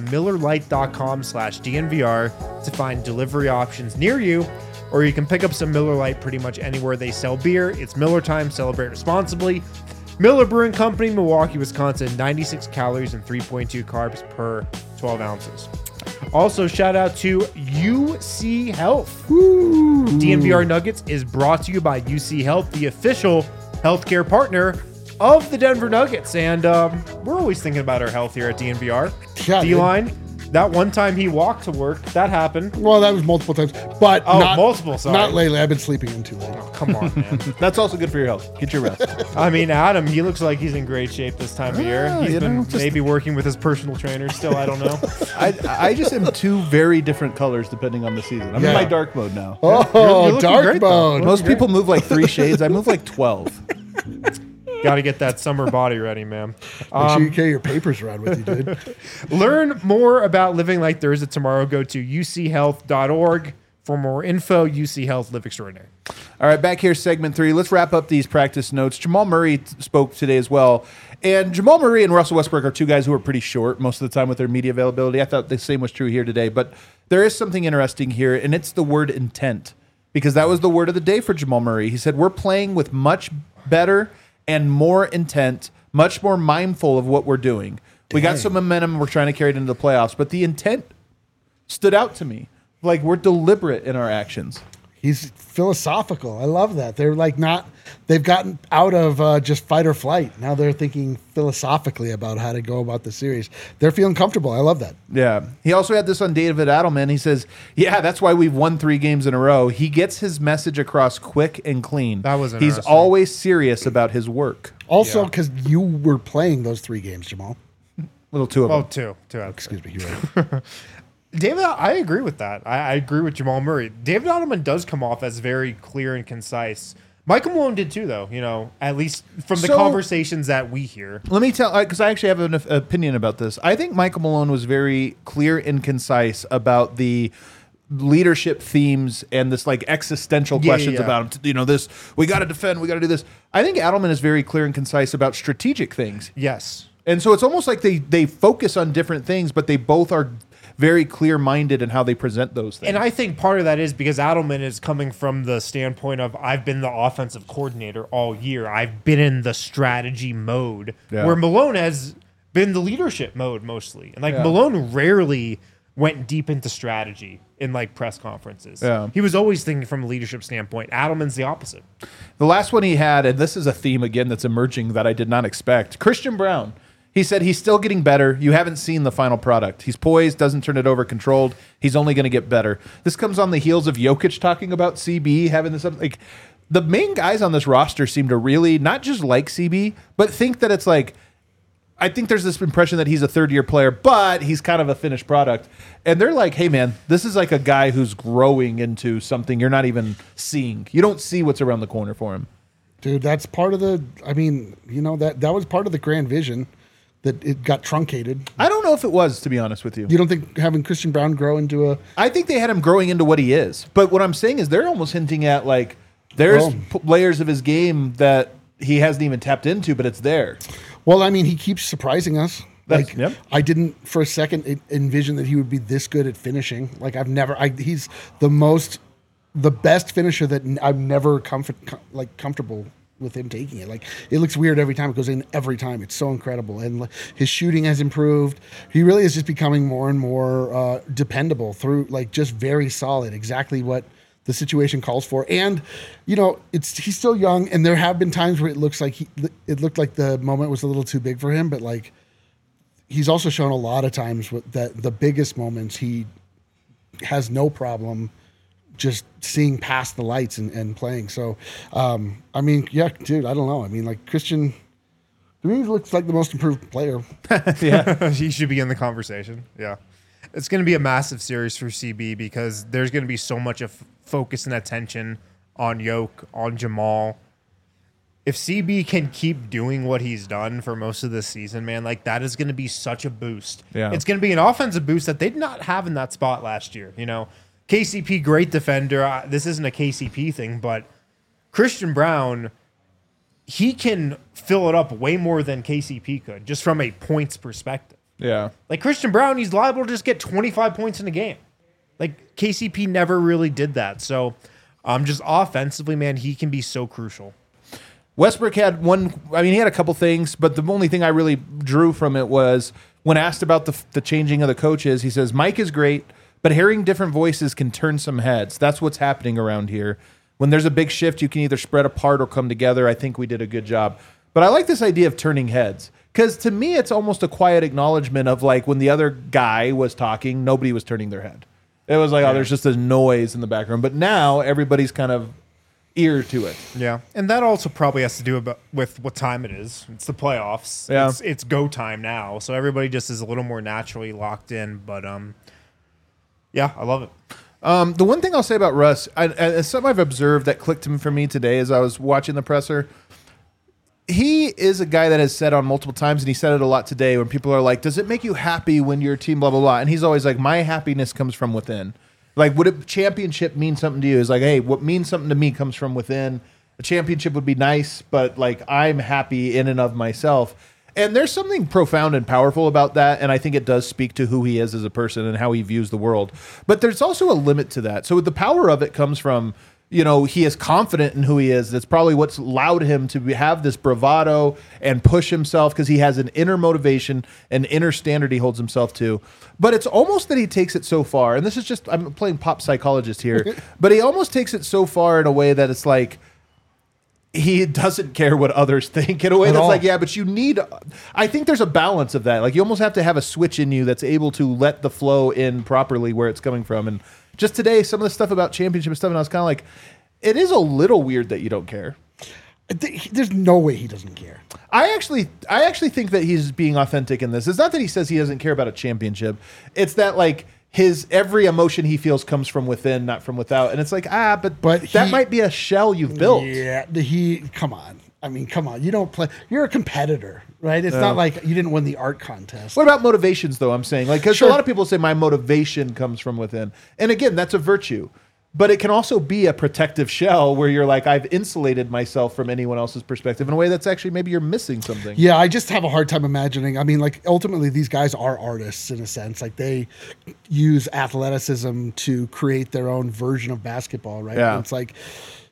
Speaker 2: MillerLite.com/DNVR to find delivery options near you, or you can pick up some Miller Lite pretty much anywhere they sell beer. It's Miller time. Celebrate responsibly. Miller Brewing Company, Milwaukee, Wisconsin, 96 calories and 3.2 carbs per 12 ounces. Also, shout out to UC Health.
Speaker 3: Ooh.
Speaker 2: DNVR Nuggets is brought to you by UC Health, the official healthcare partner of the Denver Nuggets. And we're always thinking about our health here at DNVR.
Speaker 3: Yeah,
Speaker 2: D-line, that one time he walked to work, that happened.
Speaker 3: Well, that was multiple times, but
Speaker 2: multiple. Sorry.
Speaker 3: Not lately. I've been sleeping in too late.
Speaker 2: Oh, come on, man.
Speaker 1: That's also good for your health. Get your rest.
Speaker 2: I mean, Adam, he looks like he's in great shape this time of year. He's been
Speaker 1: just
Speaker 2: maybe working with his personal trainer still. I don't know.
Speaker 1: I just am two very different colors depending on the season. I'm in my dark mode now.
Speaker 3: Oh,
Speaker 2: You're looking
Speaker 3: dark
Speaker 2: great, though.
Speaker 3: mode.
Speaker 1: Most people move like 3 shades. I move like 12.
Speaker 2: Got to get that summer body ready, man.
Speaker 3: Make sure you carry your papers around with you, dude.
Speaker 2: Learn more about living like Thursday tomorrow. Go to uchealth.org for more info. UC Health, live extraordinary.
Speaker 1: All right, back here, segment 3. Let's wrap up these practice notes. Jamal Murray spoke today as well. And Jamal Murray and Russell Westbrook are two guys who are pretty short most of the time with their media availability. I thought the same was true here today. But there is something interesting here, and it's the word intent. Because that was the word of the day for Jamal Murray. He said, we're playing with much better and more intent, much more mindful of what we're doing. We got some momentum. We're trying to carry it into the playoffs. But the intent stood out to me. Like, we're deliberate in our actions.
Speaker 3: He's philosophical. I love that. They're like they've gotten out of just fight or flight. Now they're thinking philosophically about how to go about the series. They're feeling comfortable. I love that.
Speaker 1: Yeah. He also had this on David Adelman. He says, yeah, that's why we've won 3 games in a row. He gets his message across quick and clean.
Speaker 2: That was
Speaker 1: He's
Speaker 2: interesting.
Speaker 1: always serious about his work.
Speaker 3: Also, because you were playing those 3 games, Jamal.
Speaker 1: Little 2 of them.
Speaker 2: Oh, two.
Speaker 3: Excuse me. You're right.
Speaker 2: David, I agree with that. I agree with Jamal Murray. David Adelman does come off as very clear and concise. Michael Malone did too, though, at least from the conversations that we hear.
Speaker 1: Let me tell, because I actually have an opinion about this. I think Michael Malone was very clear and concise about the leadership themes and this like existential questions about him. This, we got to defend, we got to do this. I think Adelman is very clear and concise about strategic things.
Speaker 2: Yes.
Speaker 1: And so it's almost like they focus on different things, but they both are very clear-minded in how they present those things.
Speaker 2: And I think part of that is because Adelman is coming from the standpoint of, I've been the offensive coordinator all year. I've been in the strategy mode, where Malone has been the leadership mode mostly. And Malone rarely went deep into strategy in like press conferences.
Speaker 1: Yeah.
Speaker 2: He was always thinking from a leadership standpoint. Adelman's the opposite.
Speaker 1: The last one he had, and this is a theme again that's emerging that I did not expect, Christian Brown. He said he's still getting better. You haven't seen the final product. He's poised, doesn't turn it over, controlled. He's only going to get better. This comes on the heels of Jokic talking about CB, having this, like, the main guys on this roster seem to really not just like CB, but think that it's like, I think there's this impression that he's a third-year player, but he's kind of a finished product. And they're like, hey, man, this is like a guy who's growing into something you're not even seeing. You don't see what's around the corner for him.
Speaker 3: Dude, that's part of the, I mean, that was part of the grand vision that it got truncated.
Speaker 1: I don't know if it was, to be honest with you.
Speaker 3: You don't think having Christian Braun grow into a...
Speaker 1: I think they had him growing into what he is. But what I'm saying is they're almost hinting at, like, there's layers of his game that he hasn't even tapped into, but it's there.
Speaker 3: Well, I mean, he keeps surprising us.
Speaker 1: Yep.
Speaker 3: I didn't for a second envision that he would be this good at finishing. Like he's the best finisher that I'm never comfortable with him taking it. Like, it looks weird every time it goes in. Every time, it's so incredible, and his shooting has improved. He really is just becoming more and more dependable through, like, just very solid. Exactly what the situation calls for. And he's still young, and there have been times where it looked like the moment was a little too big for him, but like, he's also shown a lot of times that the biggest moments he has no problem just seeing past the lights and playing. So, I mean, yeah, dude, I don't know. I mean, like, Christian, to me, he looks like the most improved player.
Speaker 2: Yeah. He should be in the conversation. Yeah. It's going to be a massive series for CB because there's going to be so much of focus and attention on Yoke, on Jamal. If CB can keep doing what he's done for most of this season, man, like, that is going to be such a boost.
Speaker 1: Yeah.
Speaker 2: It's going to be an offensive boost that they did not have in that spot last year. KCP, great defender. This isn't a KCP thing, but Christian Braun, he can fill it up way more than KCP could, just from a points perspective.
Speaker 1: Yeah.
Speaker 2: Like, Christian Braun, he's liable to just get 25 points in a game. Like, KCP never really did that. So, just offensively, man, he can be so crucial.
Speaker 1: Westbrook had he had a couple things, but the only thing I really drew from it was when asked about the changing of the coaches, he says, Mike is great, but hearing different voices can turn some heads. That's what's happening around here. When there's a big shift, you can either spread apart or come together. I think we did a good job. But I like this idea of turning heads. Because to me, it's almost a quiet acknowledgement of, like, when the other guy was talking, nobody was turning their head. It was like, there's just a noise in the background. But now everybody's kind of ear to it.
Speaker 2: Yeah. And that also probably has to do with what time it is. It's the playoffs.
Speaker 1: Yeah.
Speaker 2: It's go time now. So everybody just is a little more naturally locked in. But, yeah, I love it.
Speaker 1: The one thing I'll say about Russ, and something I've observed that clicked for me today as I was watching the presser, he is a guy that has said on multiple times, and he said it a lot today, when people are like, does it make you happy when your team blah, blah, blah? And he's always like, my happiness comes from within. Like, would a championship mean something to you? It's like, hey, what means something to me comes from within. A championship would be nice, but, like, I'm happy in and of myself. And there's something profound and powerful about that, and I think it does speak to who he is as a person and how he views the world. But there's also a limit to that. So the power of it comes from, he is confident in who he is. That's probably what's allowed him to have this bravado and push himself, because he has an inner motivation, an inner standard he holds himself to. But it's almost that he takes it so far, and this is just, I'm playing pop psychologist here, but he almost takes it so far in a way that it's like, he doesn't care what others think in a way that's like, yeah, but I think there's a balance of that. Like, you almost have to have a switch in you that's able to let the flow in properly where it's coming from. And just today, some of the stuff about championship stuff, and I was kind of like, it is a little weird that you don't care.
Speaker 3: There's no way he doesn't care.
Speaker 1: I actually think that he's being authentic in this. It's not that he says he doesn't care about a championship. It's that, like, his every emotion he feels comes from within, not from without. And it's like, but that might be a shell you've built.
Speaker 3: Yeah, come on. I mean, come on. You don't play. You're a competitor, right? It's not like you didn't win the art contest.
Speaker 1: What about motivations, though? I'm saying, like, because a lot of people say my motivation comes from within, and again, that's a virtue. But it can also be a protective shell where you're like, I've insulated myself from anyone else's perspective in a way that's actually maybe you're missing something.
Speaker 3: Yeah, I just have a hard time imagining. I mean, like, ultimately, these guys are artists in a sense. Like, they use athleticism to create their own version of basketball, right?
Speaker 1: Yeah.
Speaker 3: And it's like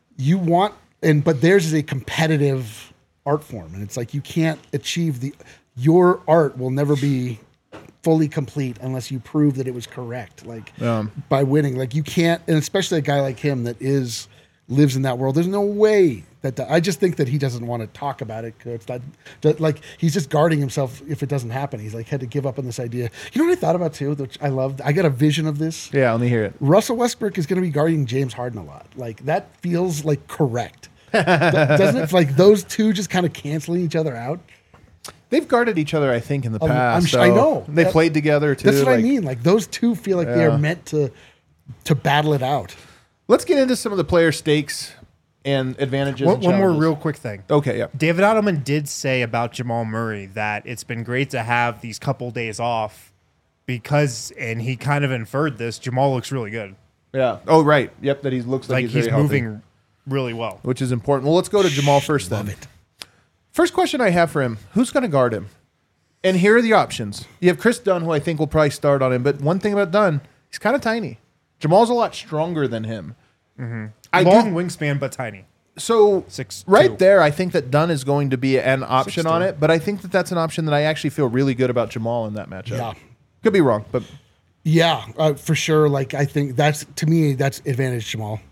Speaker 3: but theirs is a competitive art form, and it's like you can't achieve your art will never be fully complete unless you prove that it was correct, like by winning. Like, you can't, and especially a guy like him that lives in that world. There's no way I just think that he doesn't want to talk about it. It's not like he's just guarding himself if it doesn't happen. He's like had to give up on this idea. You know what I thought about too, which I loved? I got a vision of this.
Speaker 1: Yeah, let me hear it.
Speaker 3: Russell Westbrook is going to be guarding James Harden a lot. Like, that feels like correct. Doesn't it? Like, those two just kind of canceling each other out.
Speaker 1: They've guarded each other, I think, in the past.
Speaker 3: I know.
Speaker 1: They played together, too.
Speaker 3: That's what I mean. Like, those two feel like they are meant to battle it out.
Speaker 1: Let's get into some of the player stakes and advantages.
Speaker 2: One
Speaker 1: and
Speaker 2: more
Speaker 1: challenges.
Speaker 2: real quick thing.
Speaker 1: Okay, yeah.
Speaker 2: David Adelman did say about Jamal Murray that it's been great to have these couple days off because, and he kind of inferred this, Jamal looks really good.
Speaker 1: Yeah. Oh, right. Yep, that he looks like
Speaker 2: He's
Speaker 1: very
Speaker 2: moving
Speaker 1: healthy,
Speaker 2: really well.
Speaker 1: which is important. Well, let's go to Jamal first then.
Speaker 3: Love it.
Speaker 1: First question I have for him, who's going to guard him? And here are the options. You have Chris Dunn, who I think will probably start on him, but one thing about Dunn, he's kind of tiny. Jamal's a lot stronger than him.
Speaker 2: Long wingspan, but tiny.
Speaker 1: So
Speaker 2: 6'2".
Speaker 1: right there, I think that Dunn is going to be an option
Speaker 2: 6'2".
Speaker 1: on it, but I think that that's an option that I actually feel really good about Jamal in that matchup.
Speaker 3: Yeah.
Speaker 1: Could be wrong, but
Speaker 3: Yeah, for sure. Like, I think to me, that's advantage Jamal.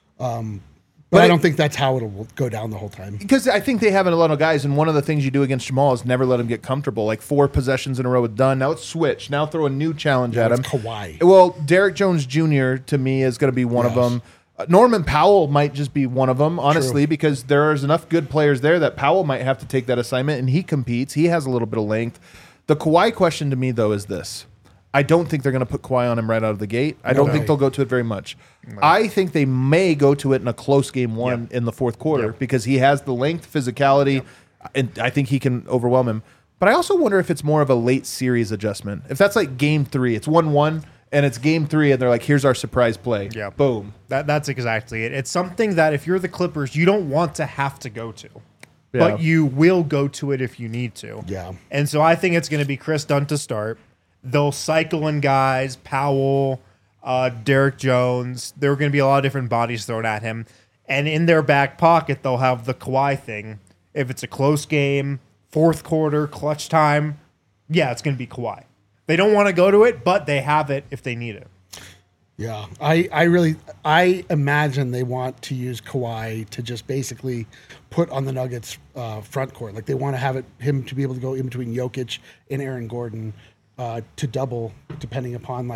Speaker 3: But I don't think that's how it'll go down the whole time.
Speaker 1: because I think they have a lot of guys, and one of the things you do against Jamal is never let him get comfortable. Like 4 possessions in a row with Dunn. Now it's switch. Now throw a new challenge at him.
Speaker 3: It's Kawhi.
Speaker 1: Well, Derek Jones Jr. to me is going to be one of
Speaker 3: Yes.
Speaker 1: them. Norman Powell might just be one of them, honestly,
Speaker 3: True.
Speaker 1: because there's enough good players there that Powell might have to take that assignment, and he competes. He has a little bit of length. The Kawhi question to me, though, is this. I don't think they're going to put Kawhi on him right out of the gate. I don't think they'll go to it very much. I think they may go to it in a close game one in the fourth quarter because he has the length, physicality, and I think he can overwhelm him. But I also wonder if it's more of a late series adjustment. If that's like game 3, it's 1-1, and it's game 3, and they're like, here's our surprise play.
Speaker 2: Yeah.
Speaker 1: Boom.
Speaker 2: That's exactly it. It's something that if you're the Clippers, you don't want to have to go to.
Speaker 1: Yeah.
Speaker 2: But you will go to it if you need to.
Speaker 3: Yeah.
Speaker 2: And so I think it's going to be Chris Dunn to start. They'll cycle in guys, Powell, Derek Jones. There are going to be a lot of different bodies thrown at him. And in their back pocket, they'll have the Kawhi thing. If it's a close game, fourth quarter, clutch time, yeah, it's going to be Kawhi. They don't want to go to it, but they have it if they need it.
Speaker 3: Yeah, I imagine they want to use Kawhi to just basically put on the Nuggets front court. Like, they want to have him to be able to go in between Jokic and Aaron Gordon to double, depending upon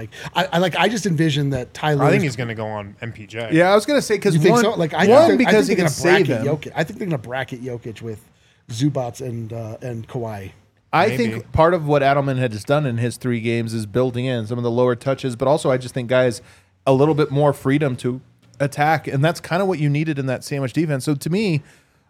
Speaker 3: I just envision that Tyler.
Speaker 2: I think he's going to go on MPJ.
Speaker 1: Yeah, I was going to say because
Speaker 3: You think
Speaker 1: one,
Speaker 3: so? Like, I
Speaker 1: one
Speaker 3: think
Speaker 1: because he
Speaker 3: they're
Speaker 1: can
Speaker 3: gonna
Speaker 1: save
Speaker 3: bracket
Speaker 1: him.
Speaker 3: Jokic. I think they're going to bracket Jokic with Zubats and Kawhi.
Speaker 1: I
Speaker 2: Maybe.
Speaker 1: think part of what Adelman had just done in his 3 games is building in some of the lower touches, but also I just think guys a little bit more freedom to attack, and that's kind of what you needed in that sandwich defense. So to me,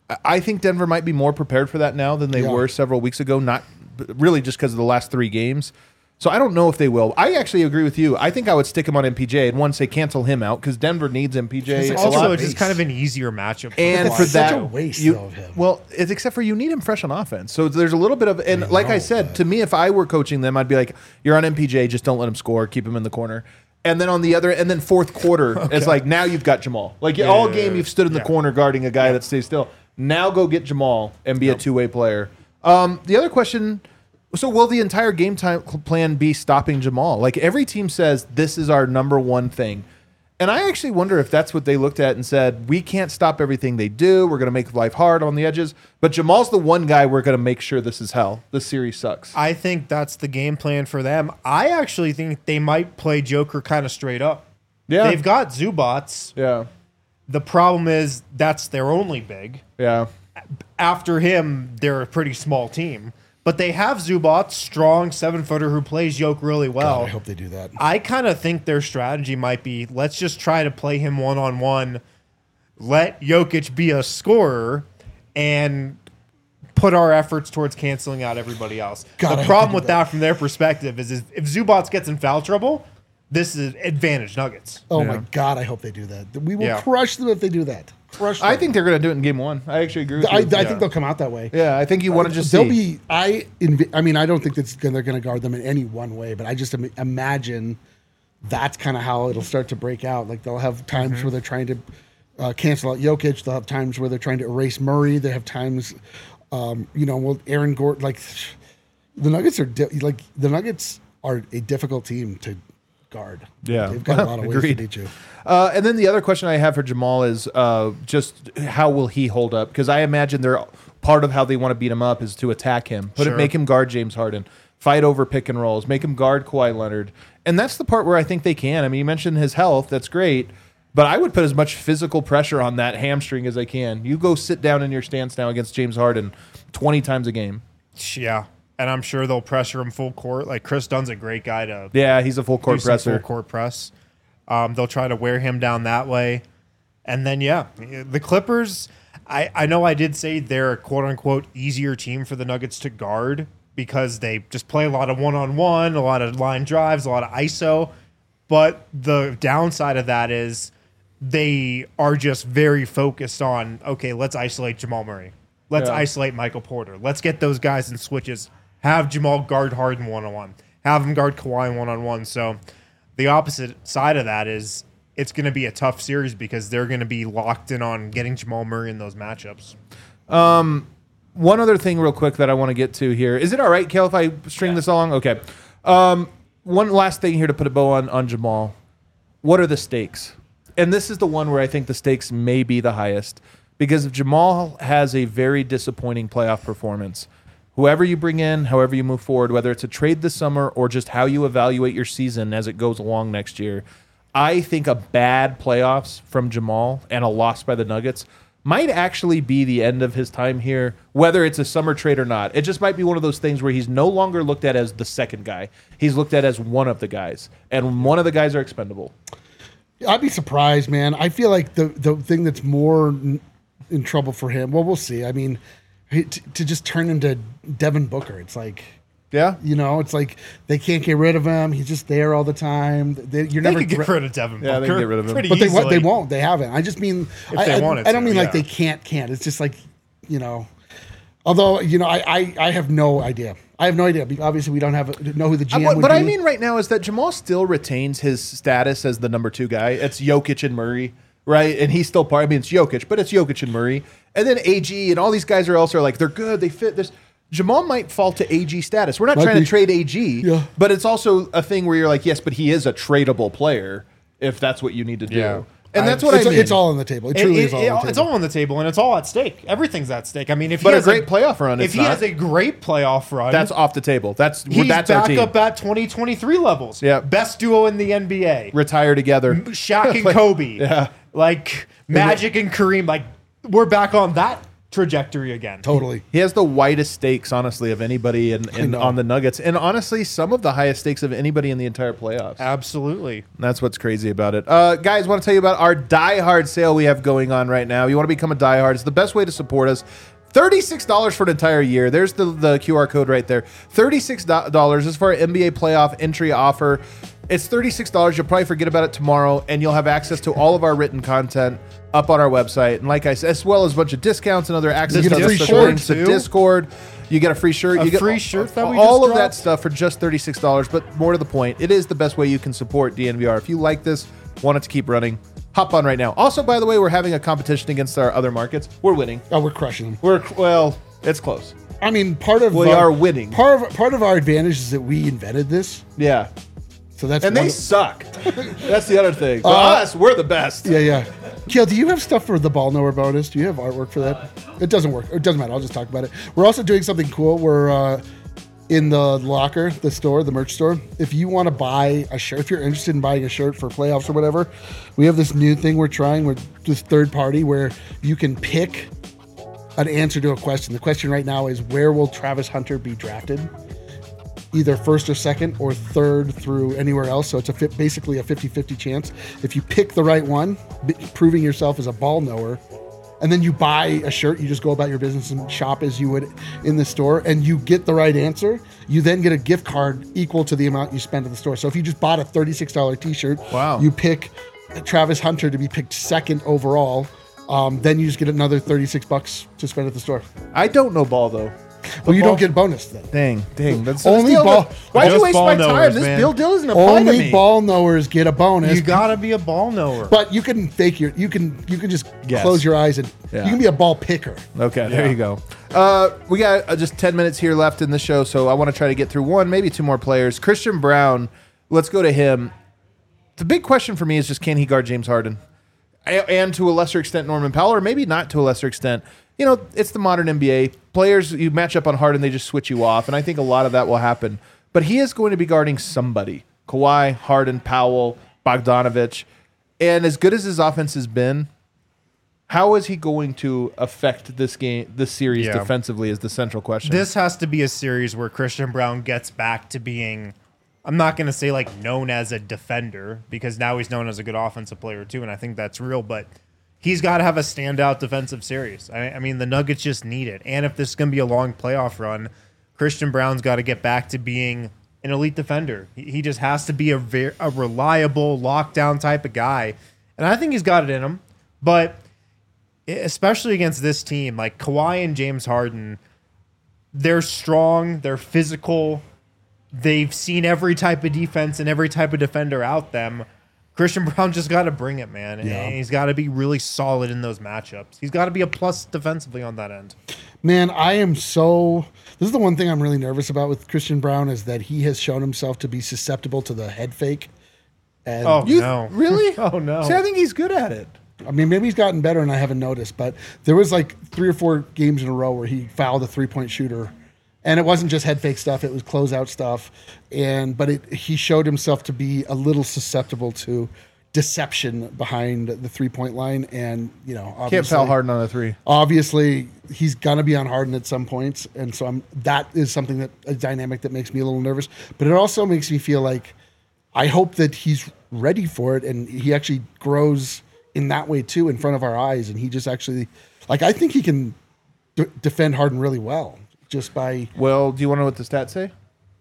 Speaker 1: I think Denver might be more prepared for that now than they were several weeks ago, not really just because of the last 3 games. So I don't know if they will. I actually agree with you. I think I would stick him on MPJ and one say cancel him out because Denver needs MPJ.
Speaker 3: It's
Speaker 1: a lot.
Speaker 2: Also,
Speaker 3: waste.
Speaker 2: it's just kind of an easier matchup.
Speaker 1: And
Speaker 2: Kawhi.
Speaker 1: for
Speaker 3: Such
Speaker 1: that,
Speaker 3: a waste,
Speaker 1: you,
Speaker 3: though, of him.
Speaker 1: well, it's except for you need him fresh on offense. So there's a little bit of, and like I said, to me, if I were coaching them, I'd be like, you're on MPJ, just don't let him score, keep him in the corner. And then on the other, and then fourth quarter, it's like now you've got Jamal. Like all game, you've stood in the corner guarding a guy that stays still. Now go get Jamal and be a 2-way player. The other question. So will the entire game time plan be stopping Jamal? Like every team says, this is our number one thing. And I actually wonder if that's what they looked at and said, we can't stop everything they do. We're going to make life hard on the edges. But Jamal's the one guy we're going to make sure this is hell. This series sucks.
Speaker 2: I think that's the game plan for them. I actually think they might play Joker kind of straight up.
Speaker 1: Yeah.
Speaker 2: They've got Zubats.
Speaker 1: Yeah.
Speaker 2: The problem is that's their only big.
Speaker 1: Yeah.
Speaker 2: After him, they're a pretty small team. But they have Zubats, strong 7-footer who plays Joke really well.
Speaker 3: God, I hope they do that.
Speaker 2: I kind of think their strategy might be let's just try to play him one-on-one, let Jokic be a scorer, and put our efforts towards canceling out everybody else.
Speaker 3: God, I
Speaker 2: The
Speaker 3: hope
Speaker 2: problem
Speaker 3: they do
Speaker 2: with that from their perspective is if Zubats gets in foul trouble, this is advantage Nuggets.
Speaker 3: Oh my God, I hope they do that. We will
Speaker 2: Yeah.
Speaker 3: crush them if they do that. Crush them.
Speaker 1: I think they're going to do it in game 1. I actually agree with you.
Speaker 3: I think they'll come out that way.
Speaker 1: Yeah, I think you want to just
Speaker 3: They'll
Speaker 1: see.
Speaker 3: be. I mean, I don't think they're going to guard them in any one way, but I just imagine that's kind of how it'll start to break out. Like they'll have times where they're trying to cancel out Jokic. They'll have times where they're trying to erase Murray. They have times, Aaron Gordon. Like the Nuggets the Nuggets are a difficult team to guard.
Speaker 1: Yeah.
Speaker 3: They've got a lot of ways to
Speaker 1: Agreed.
Speaker 3: beat you.
Speaker 1: And then the other question I have for Jamal is just how will he hold up? Because I imagine they're part of how they want to beat him up is to attack him, make him guard James Harden, fight over pick and rolls, make him guard Kawhi Leonard, and that's the part where I think they can. I mean, you mentioned his health, that's great, but I would put as much physical pressure on that hamstring as I can. You go sit down in your stance now against James Harden 20 times a game.
Speaker 2: Yeah. And I'm sure they'll pressure him full court. Like Chris Dunn's a great guy to
Speaker 1: Yeah, he's a full court
Speaker 2: do some
Speaker 1: presser.
Speaker 2: full court press. They'll try to wear him down that way. And then, the Clippers, I know I did say they're a quote-unquote easier team for the Nuggets to guard because they just play a lot of one-on-one, a lot of line drives, a lot of ISO. But the downside of that is they are just very focused on, okay, let's isolate Jamal Murray. Let's isolate Michael Porter. Let's get those guys in switches. Have Jamal guard Harden one-on-one. Have him guard Kawhi one-on-one. So the opposite side of that is it's going to be a tough series because they're going to be locked in on getting Jamal Murray in those matchups.
Speaker 1: One other thing real quick that I want to get to here. Is it all right, Kale, if I string this along? Okay. One last thing here to put a bow on Jamal. What are the stakes? And this is the one where I think the stakes may be the highest because if Jamal has a very disappointing playoff performance, whoever you bring in, however you move forward, whether it's a trade this summer or just how you evaluate your season as it goes along next year, I think a bad playoffs from Jamal and a loss by the Nuggets might actually be the end of his time here, whether it's a summer trade or not. It just might be one of those things where he's no longer looked at as the second guy. He's looked at as one of the guys, and one of the guys are expendable.
Speaker 3: I'd be surprised, man. I feel like the thing that's more in trouble for him, well, we'll see. I mean, to just turn into Devin Booker, it's like,
Speaker 1: Yeah?
Speaker 3: it's like they can't get rid of him. He's just there all the time.
Speaker 2: They could get rid of Devin Booker.
Speaker 1: Yeah, they can get rid of him.
Speaker 2: Pretty
Speaker 3: But
Speaker 2: easily.
Speaker 3: they won't. They haven't. I just mean,
Speaker 2: they wanted
Speaker 3: I don't
Speaker 2: to,
Speaker 3: mean like
Speaker 2: yeah.
Speaker 3: they can't. It's just like, although, I have no idea. I have no idea. Obviously, we don't know who the GM would be.
Speaker 1: What I mean right now is that Jamal still retains his status as the number 2 guy. It's Jokic and Murray, right? And he's still part. I mean, it's Jokic, but it's Jokic and Murray. And then AG and all these guys are also like, they're good. They fit this. Jamal might fall to AG status. We're not trying to trade AG, but it's also a thing where you're like, yes, but he is a tradable player if that's what you need to do.
Speaker 2: Yeah.
Speaker 1: And that's what I mean.
Speaker 3: It's all on the table. It truly is all on the table.
Speaker 2: It's all on the table, and it's all at stake. Everything's at stake. I mean, if
Speaker 1: But
Speaker 2: he
Speaker 1: a
Speaker 2: has
Speaker 1: great playoff run,
Speaker 2: if
Speaker 1: it's
Speaker 2: he
Speaker 1: not.
Speaker 2: has a great playoff run,
Speaker 1: That's off the table. That's
Speaker 2: he's
Speaker 1: our
Speaker 2: back
Speaker 1: team.
Speaker 2: up at 2023 levels.
Speaker 1: Yeah.
Speaker 2: Best duo in the NBA.
Speaker 1: Retire together.
Speaker 2: Shaq and Kobe.
Speaker 1: Yeah.
Speaker 2: Like Magic and Kareem. Like we're back on that trajectory again.
Speaker 3: Totally.
Speaker 1: He has the widest stakes, honestly, of anybody on the Nuggets. And honestly, some of the highest stakes of anybody in the entire playoffs.
Speaker 2: Absolutely.
Speaker 1: That's what's crazy about it. Guys, want to tell you about our Die Hard sale we have going on right now. You want to become a Die Hard. It's the best way to support us. $36 for an entire year. There's the QR code right there. $36 is for our NBA playoff entry offer. It's $36. You'll probably forget about it tomorrow, and you'll have access to all of our written content up on our website. And like I said, as well as a bunch of discounts and other access
Speaker 3: You
Speaker 1: to
Speaker 3: get a free
Speaker 1: special
Speaker 3: shirt,
Speaker 1: links to
Speaker 2: too.
Speaker 1: Discord. You get a free shirt. You get
Speaker 2: free shirt that we
Speaker 1: all
Speaker 2: just
Speaker 1: of that
Speaker 2: dropped?
Speaker 1: stuff for just $36. But more to the point, it is the best way you can support DNVR. If you like this, want it to keep running, hop on right now. Also, by the way, we're having a competition against our other markets. We're winning.
Speaker 3: Oh, we're crushing them.
Speaker 1: It's close.
Speaker 3: I mean, part of
Speaker 1: We are winning.
Speaker 3: Part of our advantage is that we invented this.
Speaker 1: Yeah.
Speaker 3: So that's
Speaker 1: And
Speaker 3: one
Speaker 1: they
Speaker 3: of-
Speaker 1: suck. That's the other thing. For us, we're the best.
Speaker 3: Yeah. Kiel, do you have stuff for the ball knower bonus? Do you have artwork for that? It doesn't work. It doesn't matter. I'll just talk about it. We're also doing something cool. We're in the locker, the store, the merch store. If you want to buy a shirt, if you're interested in buying a shirt for playoffs or whatever, we have this new thing we're trying with this third party where you can pick an answer to a question. The question right now is, where will Travis Hunter be drafted? Either first or second or third through anywhere else. So it's basically a 50-50 chance. If you pick the right one, proving yourself as a ball knower, and then you buy a shirt, you just go about your business and shop as you would in the store, and you get the right answer, you then get a gift card equal to the amount you spend at the store. So if you just bought a $36 t-shirt,
Speaker 1: Wow.
Speaker 3: you pick Travis Hunter to be picked second overall, then you just get another $36 to spend at the store.
Speaker 1: I don't know ball, though.
Speaker 3: Well, you don't get bonus then.
Speaker 1: Dang. That's
Speaker 3: Only
Speaker 1: still-
Speaker 3: ball-
Speaker 1: Why'd you
Speaker 2: Just
Speaker 1: waste
Speaker 2: ball
Speaker 1: my
Speaker 2: knowers,
Speaker 1: time? This
Speaker 2: man.
Speaker 1: bill deal doesn't apply to
Speaker 3: Only
Speaker 1: me.
Speaker 3: ball knowers get a bonus.
Speaker 2: You gotta be a ball knower.
Speaker 3: But you can fake you can just
Speaker 1: Guess.
Speaker 3: close your eyes and
Speaker 1: Yeah.
Speaker 3: you can be a ball picker.
Speaker 1: Okay, there you go. We got just 10 minutes here left in the show, so I want to try to get through one, maybe two more players. Christian Brown, let's go to him. The big question for me is just, can he guard James Harden? And to a lesser extent, Norman Powell, or maybe not to a lesser extent. You know, it's the modern NBA. Players, you match up on Harden, they just switch you off, and I think a lot of that will happen. But he is going to be guarding somebody. Kawhi, Harden, Powell, Bogdanovich. And as good as his offense has been, How is he going to affect this series
Speaker 2: Yeah.
Speaker 1: defensively is the central question.
Speaker 2: This has to be a series where Christian Brown gets back to being, I'm not going to say like known as a defender, because now he's known as a good offensive player too, and I think that's real, but he's got to have a standout defensive series. I mean, the Nuggets just need it. And if this is going to be a long playoff run, Christian Brown's got to get back to being an elite defender. He just has to be a reliable, lockdown type of guy. And I think he's got it in him. But especially against this team, like Kawhi and James Harden, they're strong, they're physical, they've seen every type of defense and every type of defender out them. Christian Brown just got to bring it, man.
Speaker 3: Yeah.
Speaker 2: And he's got to be really solid in those matchups. He's got to be a plus defensively on that end.
Speaker 3: Man, this is the one thing I'm really nervous about with Christian Brown is that he has shown himself to be susceptible to the head fake. And
Speaker 2: No.
Speaker 1: Really?
Speaker 2: Oh, no.
Speaker 1: See, I think he's good at it.
Speaker 3: I mean, maybe he's gotten better and I haven't noticed, but there was like 3 or 4 games in a row where he fouled a 3-point shooter. And it wasn't just head fake stuff; it was closeout stuff. But he showed himself to be a little susceptible to deception behind the 3-point line. And obviously,
Speaker 1: Can't foul Harden on a 3.
Speaker 3: Obviously, he's gonna be on Harden at some points, and so that is something a dynamic that makes me a little nervous. But it also makes me feel like I hope that he's ready for it, and he actually grows in that way too in front of our eyes, and he just actually I think he can defend Harden really well. Just by
Speaker 1: Well, do you want to know what the stats say?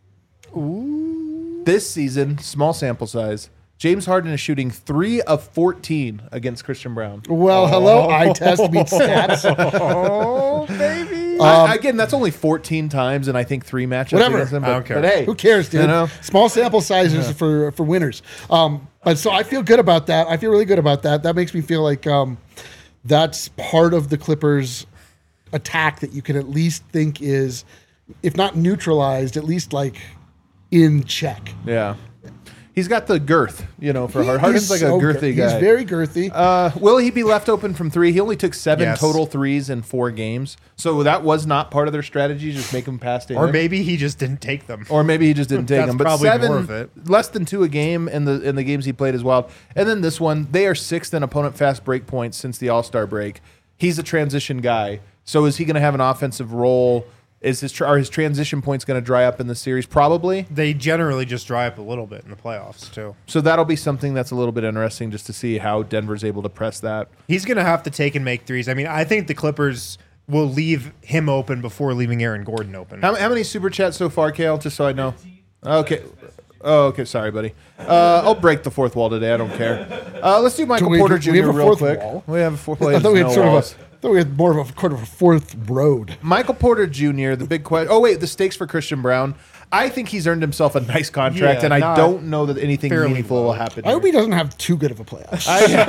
Speaker 1: Ooh. This season, small sample size, James Harden is shooting 3 of 14 against Christian Brown.
Speaker 3: hello, eye test meets stats.
Speaker 1: Oh, baby. Again, that's only 14 times, and I think 3 matchups
Speaker 3: Whatever.
Speaker 1: against him.
Speaker 2: I don't care.
Speaker 1: But hey,
Speaker 3: Who cares, dude? Small sample sizes for winners. But so I feel good about that. I feel really good about that. That makes me feel like that's part of the Clippers' attack that you can at least think is, if not neutralized, at least in check.
Speaker 1: Yeah. He's got the girth, for Harden. Harden's like a girthy guy.
Speaker 3: He's very girthy.
Speaker 1: Will he be left open from 3? He only took 7
Speaker 2: Yes.
Speaker 1: total threes in 4 games. So that was not part of their strategy, just make him pass to him.
Speaker 2: Or maybe he just didn't take them.
Speaker 1: Or maybe he just didn't take
Speaker 2: That's
Speaker 1: them. But
Speaker 2: probably
Speaker 1: 7,
Speaker 2: more of it.
Speaker 1: less than 2 a game in the games he played as well. And then this one, they are 6th in opponent fast break points since the All-Star break. He's a transition guy. So is he going to have an offensive role? Are his transition points going to dry up in the series? Probably.
Speaker 2: They generally just dry up a little bit in the playoffs, too.
Speaker 1: So that'll be something that's a little bit interesting just to see how Denver's able to press that.
Speaker 2: He's going to have to take and make threes. I mean, I think the Clippers will leave him open before leaving Aaron Gordon open.
Speaker 1: How many super chats so far, Kale? Just so I know. Okay. Oh, okay. Sorry, buddy. I'll break the fourth wall today. I don't care. Let's do Michael Porter Jr.
Speaker 3: we have a
Speaker 1: real
Speaker 3: fourth
Speaker 1: quick.
Speaker 3: wall?
Speaker 1: We have a fourth wall.
Speaker 3: I thought we had
Speaker 1: No walls.
Speaker 3: I thought we had more of a fourth road.
Speaker 1: Michael Porter Jr., the big question. Oh, wait, the stakes for Christian Brown. I think he's earned himself a nice contract,
Speaker 2: Yeah,
Speaker 1: and I
Speaker 2: not
Speaker 1: don't know that anything
Speaker 2: fairly
Speaker 1: meaningful will
Speaker 2: low.
Speaker 1: happen
Speaker 3: I hope
Speaker 1: here.
Speaker 3: he doesn't have too good of a playoff.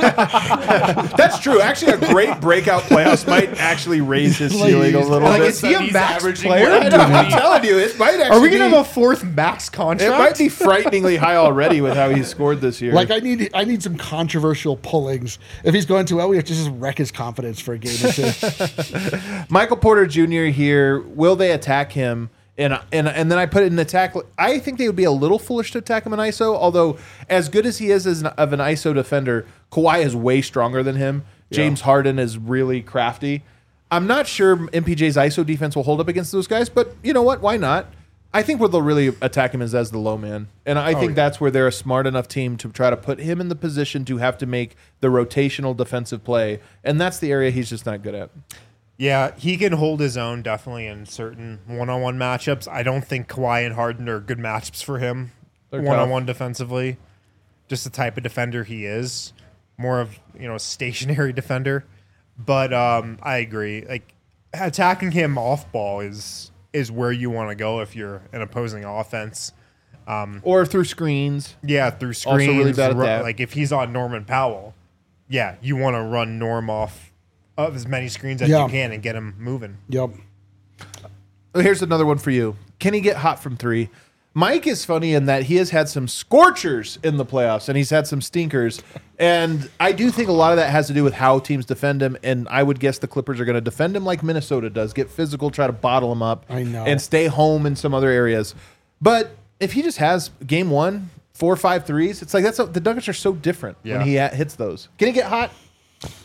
Speaker 1: That's true. Actually, a great breakout playoffs might actually raise his ceiling a little bit.
Speaker 2: is he a
Speaker 4: He's
Speaker 2: max
Speaker 4: averaging
Speaker 2: player?
Speaker 4: more than
Speaker 1: I'm telling you, it might actually
Speaker 2: Are we going to
Speaker 1: be,
Speaker 2: have a fourth max
Speaker 1: it
Speaker 2: contract?
Speaker 1: might be frighteningly high already with how he's scored this year.
Speaker 3: I need some controversial pullings. If he's going too well, we have to just wreck his confidence for a game or two.
Speaker 1: Michael Porter Jr. here, will they attack him? And then I put it in attack. I think they would be a little foolish to attack him in ISO, although as good as he is of an ISO defender, Kawhi is way stronger than him. James Harden is really crafty. I'm not sure MPJ's ISO defense will hold up against those guys, but you know what? Why not? I think where they'll really attack him is as the low man. And I think that's where they're a smart enough team to try to put him in the position to have to make the rotational defensive play. And that's the area he's just not good at.
Speaker 2: Yeah, he can hold his own definitely in certain one-on-one matchups. I don't think Kawhi and Harden are good matchups for him
Speaker 1: They're
Speaker 2: one-on-one defensively. Just the type of defender he is, more of a stationary defender. But I agree. Like attacking him off ball is where you want to go if you're an opposing offense.
Speaker 1: Or through screens.
Speaker 2: Yeah, through
Speaker 1: Also
Speaker 2: screens.
Speaker 1: really bad at that.
Speaker 2: Like if he's on Norman Powell, yeah, you want to run Norm off of as many screens as
Speaker 3: Yeah.
Speaker 2: you can and get him moving.
Speaker 3: Yep.
Speaker 1: Here's another one for you. Can he get hot from 3? Mike is funny in that he has had some scorchers in the playoffs and he's had some stinkers. And I do think a lot of that has to do with how teams defend him. And I would guess the Clippers are going to defend him like Minnesota does, get physical, try to bottle him up,
Speaker 3: I know.
Speaker 1: and stay home in some other areas. But if he just has game 1, 4 or 5 threes, it's like the Nuggets are so different when
Speaker 2: Yeah.
Speaker 1: he hits those. Can he get hot?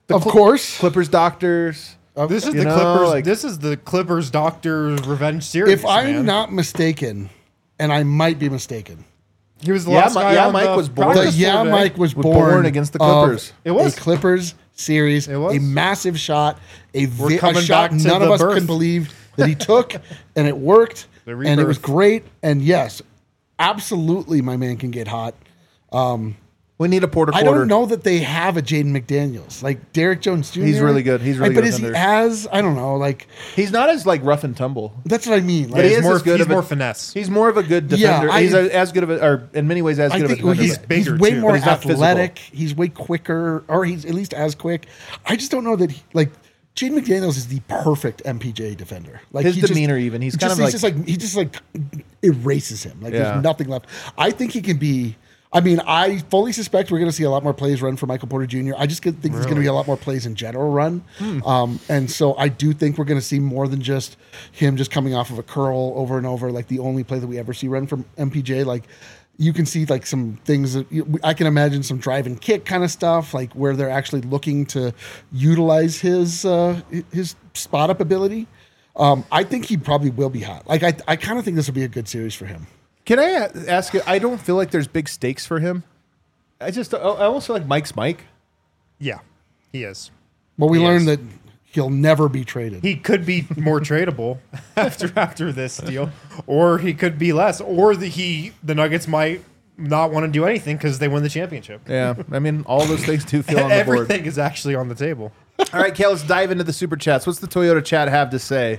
Speaker 3: Of course.
Speaker 1: Clippers doctors.
Speaker 2: This is
Speaker 1: You
Speaker 2: the
Speaker 1: know,
Speaker 2: Clippers.
Speaker 1: like-
Speaker 2: This is the Clippers Doctor Revenge series.
Speaker 3: If I'm
Speaker 2: man.
Speaker 3: not mistaken, and I might be mistaken,
Speaker 2: he was the
Speaker 1: Yeah,
Speaker 2: last guy on
Speaker 1: Mike
Speaker 2: the
Speaker 1: was born.
Speaker 2: practice floor today.
Speaker 3: Mike was
Speaker 1: born against the Clippers.
Speaker 3: Of
Speaker 2: It was.
Speaker 3: a Clippers series,
Speaker 2: It was.
Speaker 3: a massive shot, a
Speaker 2: coming
Speaker 3: shot
Speaker 2: back to
Speaker 3: none of
Speaker 2: the
Speaker 3: us
Speaker 2: birth.
Speaker 3: could believe that he took, and it worked,
Speaker 2: The
Speaker 3: and it was
Speaker 2: rebirth.
Speaker 3: great. And yes, absolutely, my man can get hot.
Speaker 1: We need a Porter
Speaker 3: I
Speaker 1: Quarter.
Speaker 3: don't know that they have a Jaden McDaniels like Derek Jones Jr.
Speaker 1: He's really good. He's really
Speaker 3: but
Speaker 1: good
Speaker 3: is he
Speaker 1: defender.
Speaker 3: as I don't know like
Speaker 1: He's not as like rough and tumble.
Speaker 3: that's what I mean.
Speaker 1: But
Speaker 3: Like,
Speaker 1: he
Speaker 2: He's
Speaker 1: is
Speaker 2: more,
Speaker 1: as good
Speaker 2: he's
Speaker 1: of a-
Speaker 2: more finesse.
Speaker 1: He's more of a good
Speaker 3: Yeah,
Speaker 1: defender. He's as good of a, or in many ways as
Speaker 3: I
Speaker 1: good
Speaker 3: think
Speaker 1: of a defender.
Speaker 2: he's bigger,
Speaker 3: way
Speaker 2: too,
Speaker 3: more
Speaker 1: but he's not physical.
Speaker 3: athletic. He's way quicker, or he's at least as quick. I just don't know that like Jaden McDaniels is the perfect MPJ defender. Like
Speaker 1: His
Speaker 3: he just-
Speaker 1: demeanor even. He's kind of
Speaker 3: he just like erases him. Like
Speaker 1: Yeah.
Speaker 3: there's nothing left. I think he can be. I mean, I fully suspect we're going to see a lot more plays run for Michael Porter Jr. I just think there's going to be a lot more plays in general run. And so I do think we're going to see more than just him just coming off of a curl over and over, like the only play that we ever see run from MPJ. Like you can see like some things that I can imagine some drive and kick kind of stuff, like where they're actually looking to utilize his spot up ability. I think he probably will be hot. Like I kind of think this will be a good series for him.
Speaker 1: Can I ask you? I don't feel like there's big stakes for him. I almost feel like Mike's Mike.
Speaker 2: Yeah, he is.
Speaker 3: Well, we
Speaker 2: Yes.
Speaker 3: learned that he'll never be traded.
Speaker 2: He could be more tradable after this deal, or he could be less, or the Nuggets might not want to do anything because they win the championship.
Speaker 1: Yeah, I mean, all those things do feel on the board.
Speaker 2: Everything is actually on the table.
Speaker 1: All right, Kale, let's dive into the super chats. What's the Toyota chat have to say?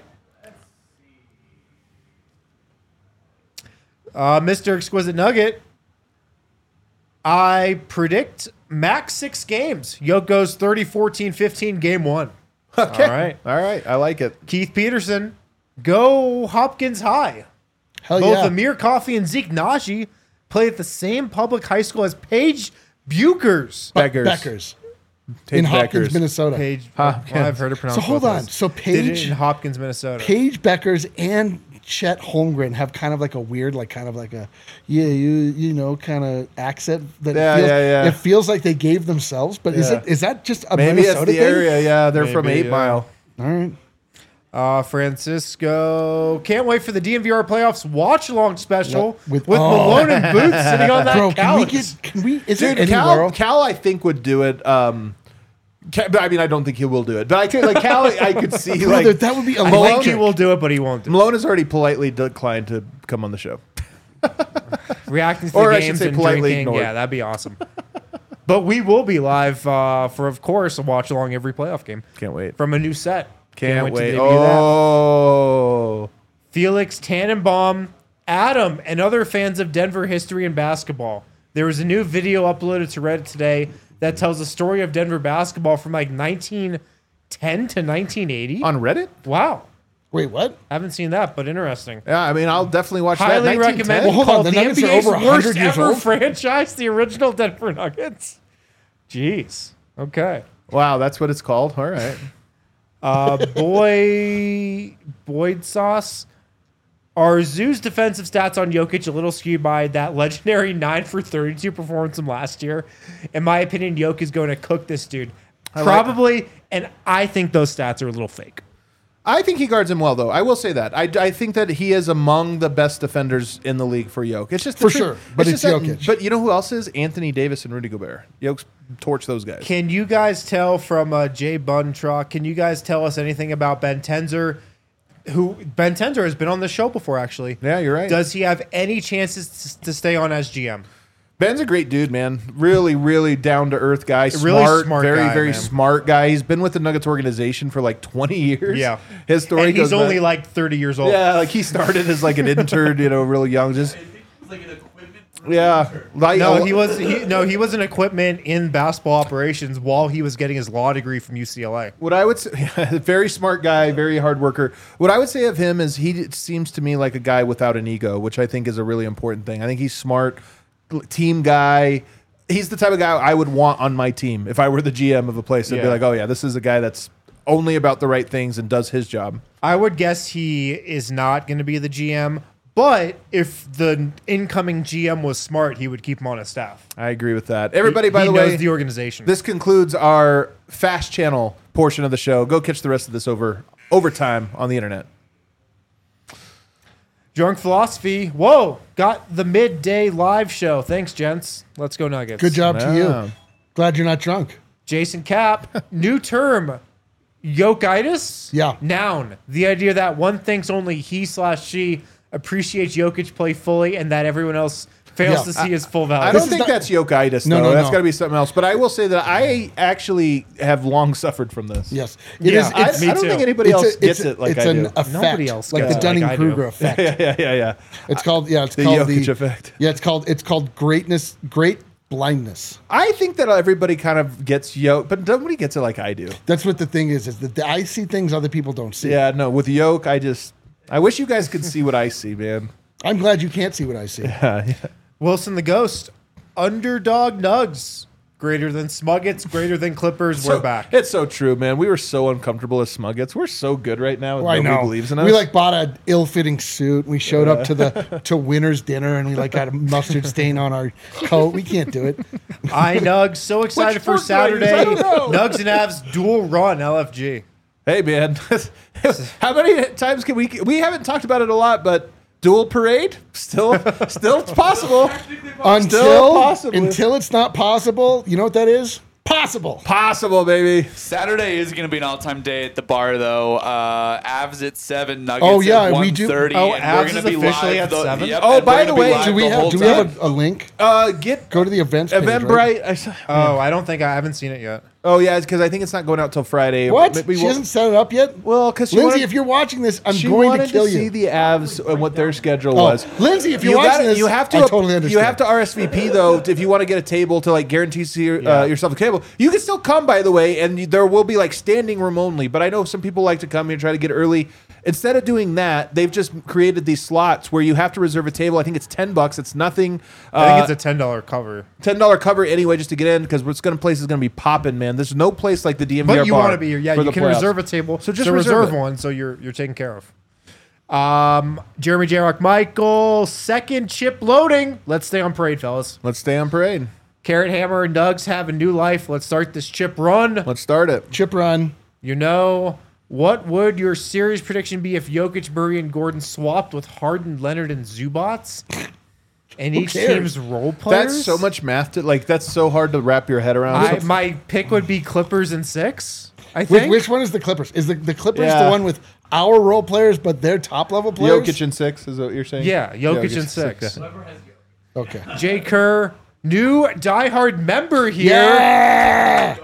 Speaker 2: Mr. Exquisite Nugget, I predict max 6 games. Yoke goes 30, 14, 15, game 1.
Speaker 1: Okay.
Speaker 2: All right.
Speaker 1: All right. I like it.
Speaker 2: Keith Peterson, go Hopkins high.
Speaker 3: Hell
Speaker 2: Both
Speaker 3: yeah.
Speaker 2: Amir Coffey and Zeke Naji play at the same public high school as Paige Buchers.
Speaker 1: Beggars.
Speaker 3: in
Speaker 1: Take
Speaker 3: Hopkins,
Speaker 1: Beckers.
Speaker 3: Minnesota.
Speaker 2: Paige,
Speaker 1: Hopkins.
Speaker 2: well, I've heard it pronounced.
Speaker 3: So hold
Speaker 2: both
Speaker 3: on.
Speaker 2: ways.
Speaker 3: So
Speaker 2: Did it
Speaker 3: Paige-
Speaker 2: in Hopkins, Minnesota.
Speaker 3: Paige Beckers and Chet Holmgren have kind of like a weird, like kind of like a you know kind of accent that
Speaker 1: Yeah,
Speaker 3: feels,
Speaker 1: yeah.
Speaker 3: it feels like they gave themselves. But
Speaker 1: Yeah.
Speaker 3: is that just a
Speaker 1: Maybe
Speaker 3: Minnesota
Speaker 1: it's the
Speaker 3: thing?
Speaker 1: area. Yeah, they're from
Speaker 2: Maybe,
Speaker 1: 8 Mile.
Speaker 3: All right.
Speaker 2: Francisco, can't wait for the DMVR playoffs watch along special
Speaker 3: With-
Speaker 2: with Malone and Boots sitting on that
Speaker 3: Bro,
Speaker 2: couch.
Speaker 3: can we? Is there
Speaker 1: Dude,
Speaker 3: anywhere?
Speaker 1: Cal, I think would do it. But I mean, I don't think he will do it. But I could, like Cal, I could see
Speaker 3: Brother,
Speaker 1: like
Speaker 3: that would be
Speaker 2: I think
Speaker 3: electric.
Speaker 2: he will do it, but he won't do it.
Speaker 1: Malone has already politely declined to come on the show.
Speaker 2: Reacting to
Speaker 1: Or
Speaker 2: the
Speaker 1: I should
Speaker 2: games
Speaker 1: say
Speaker 2: and
Speaker 1: politely
Speaker 2: drinking.
Speaker 1: ignored.
Speaker 2: Yeah, that'd be awesome. But we will be live for, of course, a watch along every playoff game
Speaker 1: Can't wait.
Speaker 2: from a new set.
Speaker 1: Can't
Speaker 2: to
Speaker 1: wait.
Speaker 2: debut that.
Speaker 1: Oh,
Speaker 2: Felix Tannenbaum, Adam, and other fans of Denver history and basketball. There was a new video uploaded to Reddit today that tells the story of Denver basketball from like 1910 to 1980.
Speaker 1: on Reddit?
Speaker 2: Wow.
Speaker 3: Wait, what?
Speaker 2: Haven't seen that, but interesting.
Speaker 1: Yeah, I mean, I'll definitely watch that.
Speaker 2: Highly
Speaker 1: 1910?
Speaker 2: recommend.
Speaker 3: Well, hold on,
Speaker 2: Called
Speaker 3: the
Speaker 2: the
Speaker 3: Nuggets are
Speaker 2: NBA's
Speaker 3: over 100
Speaker 2: worst
Speaker 3: years
Speaker 2: ever
Speaker 3: old?
Speaker 2: franchise, the original Denver Nuggets. Jeez. Okay.
Speaker 1: Wow, that's what it's called. All right.
Speaker 2: Boyd Sauce. Are Zoo's defensive stats on Jokic a little skewed by that legendary 9 for 32 performance from last year? In my opinion, Jokic is going to cook this dude. Probably, and I think those stats are a little fake.
Speaker 1: I think he guards him well, though. I will say that. I think that he is among the best defenders in the league for Jokic. It's just
Speaker 3: For sure, but it's
Speaker 1: just that-
Speaker 3: Jokic.
Speaker 1: But you know who else is? Anthony Davis and Rudy Gobert. Jokic's torch those guys.
Speaker 2: Can you guys tell from Jay Buntrock, can you guys tell us anything about Ben Tenzer? Ben Tenzer has been on the show before, actually.
Speaker 1: Yeah, you're right.
Speaker 2: Does he have any chances to stay on as GM?
Speaker 1: Ben's a great dude, man. Really, really down to earth guy.
Speaker 2: Really
Speaker 1: Smart,
Speaker 2: smart
Speaker 1: very,
Speaker 2: guy,
Speaker 1: very
Speaker 2: man.
Speaker 1: smart guy. He's been with the Nuggets organization for like 20 years.
Speaker 2: Yeah.
Speaker 1: His story
Speaker 2: And he's
Speaker 1: goes
Speaker 2: only
Speaker 1: back-
Speaker 2: like 30 years old.
Speaker 1: Yeah, like he started as like an intern, real young. Just
Speaker 4: like an equipment.
Speaker 1: yeah. Like,
Speaker 2: No, he was an equipment in basketball operations while he was getting his law degree from UCLA.
Speaker 1: What I would say, very smart guy, very hard worker. What I would say of him is he seems to me like a guy without an ego, which I think is a really important thing. I think he's smart, team guy. He's the type of guy I would want on my team if I were the GM of a place. I'd be
Speaker 2: Yeah.
Speaker 1: like, oh yeah, this is a guy that's only about the right things and does his job.
Speaker 2: I would guess he is not going to be the GM, But if the incoming GM was smart, he would keep him on his staff.
Speaker 1: I agree with that. Everybody, by
Speaker 2: He
Speaker 1: the
Speaker 2: knows
Speaker 1: way,
Speaker 2: the organization.
Speaker 1: this concludes our Fast Channel portion of the show. Go catch the rest of this overtime on the internet.
Speaker 2: Drunk Philosophy. Whoa, got the midday live show. Thanks, gents. Let's go Nuggets.
Speaker 3: Good job to
Speaker 1: Yeah.
Speaker 3: you. Glad you're not drunk.
Speaker 2: Jason Cap. New term. Yokitis?
Speaker 3: Yeah.
Speaker 2: Noun. The idea that one thinks only he/she appreciates Jokic play fully and that everyone else fails
Speaker 3: Yeah.
Speaker 2: to see his full value.
Speaker 1: I don't
Speaker 3: is
Speaker 1: think
Speaker 3: not-
Speaker 1: that's yokitis,
Speaker 3: No,
Speaker 1: though.
Speaker 3: no,
Speaker 1: That's
Speaker 3: no.
Speaker 1: got to be something else. But I will say that I actually have long suffered from this.
Speaker 3: Yes.
Speaker 2: Yeah,
Speaker 1: I
Speaker 2: Me
Speaker 1: don't
Speaker 2: too.
Speaker 1: think anybody else gets
Speaker 3: a-
Speaker 1: it like
Speaker 3: it's
Speaker 1: I
Speaker 3: an
Speaker 1: do.
Speaker 3: effect,
Speaker 2: Nobody else
Speaker 3: like
Speaker 2: gets
Speaker 3: the
Speaker 2: it like I do.
Speaker 3: Dunning-Kruger effect.
Speaker 1: Yeah.
Speaker 3: It's called
Speaker 1: The
Speaker 3: called
Speaker 1: Jokic effect.
Speaker 3: Yeah, it's called great blindness.
Speaker 1: I think that everybody kind of gets yoke, but nobody gets it like I do.
Speaker 3: That's what the thing is that I see things other people don't see.
Speaker 1: Yeah, no, with yoke, I wish you guys could see what I see, man.
Speaker 3: I'm glad you can't see what I see.
Speaker 2: Wilson the Ghost. Underdog Nugs. Greater than Smuggets, greater than Clippers. We're back.
Speaker 1: It's so true, man. We were so uncomfortable as Smuggets. We're so good right now.
Speaker 3: Well, I
Speaker 1: Nobody
Speaker 3: know.
Speaker 1: believes in us.
Speaker 3: We like bought an ill-fitting suit. We showed up to winner's dinner and we like got a mustard stain on our coat. We can't do it.
Speaker 2: I Nugs. So excited for
Speaker 1: sport do I use? I
Speaker 2: Saturday.
Speaker 1: don't know.
Speaker 2: Nugs and Avs dual run LFG.
Speaker 1: Hey, man. How many times can we haven't talked about it a lot, but dual parade still it's possible.
Speaker 3: Until it's not possible, you know what that is? Possible.
Speaker 1: Possible, baby.
Speaker 4: Saturday is going to be an all-time day at the bar, though. Avs at 7, Nuggets
Speaker 3: Oh, yeah,
Speaker 4: at
Speaker 3: we do-
Speaker 4: 1:30.
Speaker 2: Oh,
Speaker 4: and
Speaker 2: Avs
Speaker 4: we're going
Speaker 2: is
Speaker 4: to be
Speaker 2: officially
Speaker 4: live
Speaker 2: at 7?
Speaker 4: Yep,
Speaker 1: Oh,
Speaker 4: and
Speaker 1: by
Speaker 4: we're
Speaker 1: the
Speaker 4: gonna be
Speaker 1: way,
Speaker 4: live
Speaker 3: Do we
Speaker 4: the
Speaker 3: have
Speaker 4: whole
Speaker 3: do we
Speaker 4: time.
Speaker 3: have a link?
Speaker 1: Get
Speaker 3: Go to the events page. Right?
Speaker 1: Eventbrite.
Speaker 2: Oh, I don't think I haven't seen it yet.
Speaker 1: Oh yeah, it's because I think it's not going out till Friday.
Speaker 3: What?
Speaker 1: Maybe
Speaker 3: She
Speaker 1: we'll-
Speaker 3: hasn't set it up yet?
Speaker 1: Well, because
Speaker 3: Lindsay, if you're watching this, I'm
Speaker 1: she
Speaker 3: going
Speaker 1: wanted
Speaker 3: to kill
Speaker 1: see
Speaker 3: you.
Speaker 1: the Avs and what their schedule
Speaker 3: Oh,
Speaker 1: was.
Speaker 3: Lindsay, if you're
Speaker 1: You
Speaker 3: watching
Speaker 1: gotta-
Speaker 3: this,
Speaker 1: you have to
Speaker 3: I totally understand.
Speaker 1: You have to RSVP though if you want to get a table to like guarantee yourself a table. You can still come, by the way, and there will be like standing room only. But I know some people like to come here and try to get early. Instead of doing that, they've just created these slots where you have to reserve a table. I think it's $10. It's nothing.
Speaker 2: I think it's a $10 cover.
Speaker 1: $10 cover anyway just to get in because place is going to be popping, man. There's no place like the DMVR
Speaker 2: But you
Speaker 1: bar
Speaker 2: want to be here. Yeah,
Speaker 1: for
Speaker 2: you
Speaker 1: the
Speaker 2: can
Speaker 1: playoffs.
Speaker 2: reserve a table.
Speaker 1: So just
Speaker 2: reserve
Speaker 1: reserve it.
Speaker 2: one so you're taken care of. Jeremy J. Rock Michael, second chip loading. Let's stay on parade, fellas.
Speaker 1: Let's stay on parade.
Speaker 2: Carrot Hammer and Nugs have a new life. Let's start this chip run.
Speaker 1: Let's start it.
Speaker 3: Chip run.
Speaker 2: You know, what would your series prediction be if Jokic, Murray, and Gordon swapped with Harden, Leonard, and Zubats? And each
Speaker 3: cares?
Speaker 2: team's role players?
Speaker 1: That's so much math. That's so hard to wrap your head around.
Speaker 2: My pick would be Clippers in 6, I think.
Speaker 3: Which one is the Clippers? Is the Clippers
Speaker 1: Yeah.
Speaker 3: the one with our role players, but their top level players?
Speaker 1: Jokic in 6 is what you're saying?
Speaker 2: Yeah, Jokic in 6.
Speaker 3: Okay.
Speaker 2: Jay Kerr, new diehard member here.
Speaker 3: Yeah.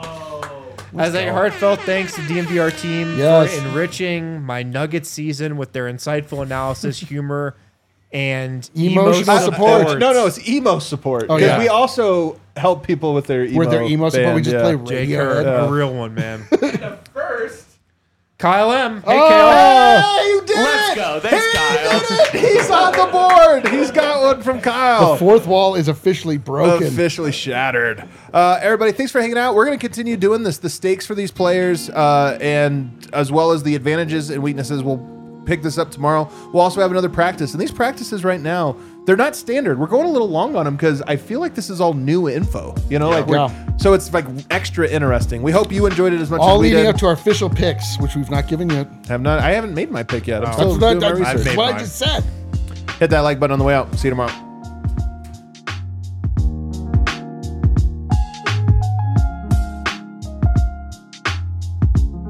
Speaker 2: As a heartfelt thanks to DMVR team
Speaker 3: Yes.
Speaker 2: for enriching my Nuggets season with their insightful analysis, humor, and
Speaker 3: Emotional support.
Speaker 1: No, it's emo support.
Speaker 3: Oh,
Speaker 1: Because
Speaker 3: yeah.
Speaker 1: we also help people with their emo.
Speaker 3: With their emo support, we
Speaker 1: band,
Speaker 3: just
Speaker 1: yeah.
Speaker 3: play
Speaker 2: Jay Kerr,
Speaker 3: Radiohead.
Speaker 2: a real one, man.
Speaker 4: First,
Speaker 2: Kyle M. Hey,
Speaker 3: Oh!
Speaker 2: Kyle.
Speaker 1: Hey, you did
Speaker 4: let's
Speaker 1: it!
Speaker 4: go. Thanks, Kyle.
Speaker 1: He's on the board. He's got one from Kyle.
Speaker 3: The fourth wall is officially broken.
Speaker 1: Officially shattered. Everybody, thanks for hanging out. We're going to continue doing this. The stakes for these players, and as well as the advantages and weaknesses, we'll pick this up tomorrow. We'll also have another practice. And these practices right now, they're not standard. We're going a little long on them because I feel like this is all new info. So it's like extra interesting. We hope you enjoyed it as much
Speaker 3: All
Speaker 1: as we
Speaker 3: leading
Speaker 1: did.
Speaker 3: up to our official picks, which we've not given yet.
Speaker 1: I haven't made my pick yet. I'm
Speaker 3: So
Speaker 1: still
Speaker 3: that-
Speaker 1: doing my
Speaker 3: that's
Speaker 1: research.
Speaker 3: what I
Speaker 2: mine.
Speaker 3: just said.
Speaker 1: Hit that like button on the way out. See you tomorrow.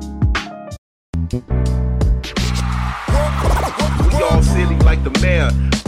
Speaker 5: We all silly like the mayor.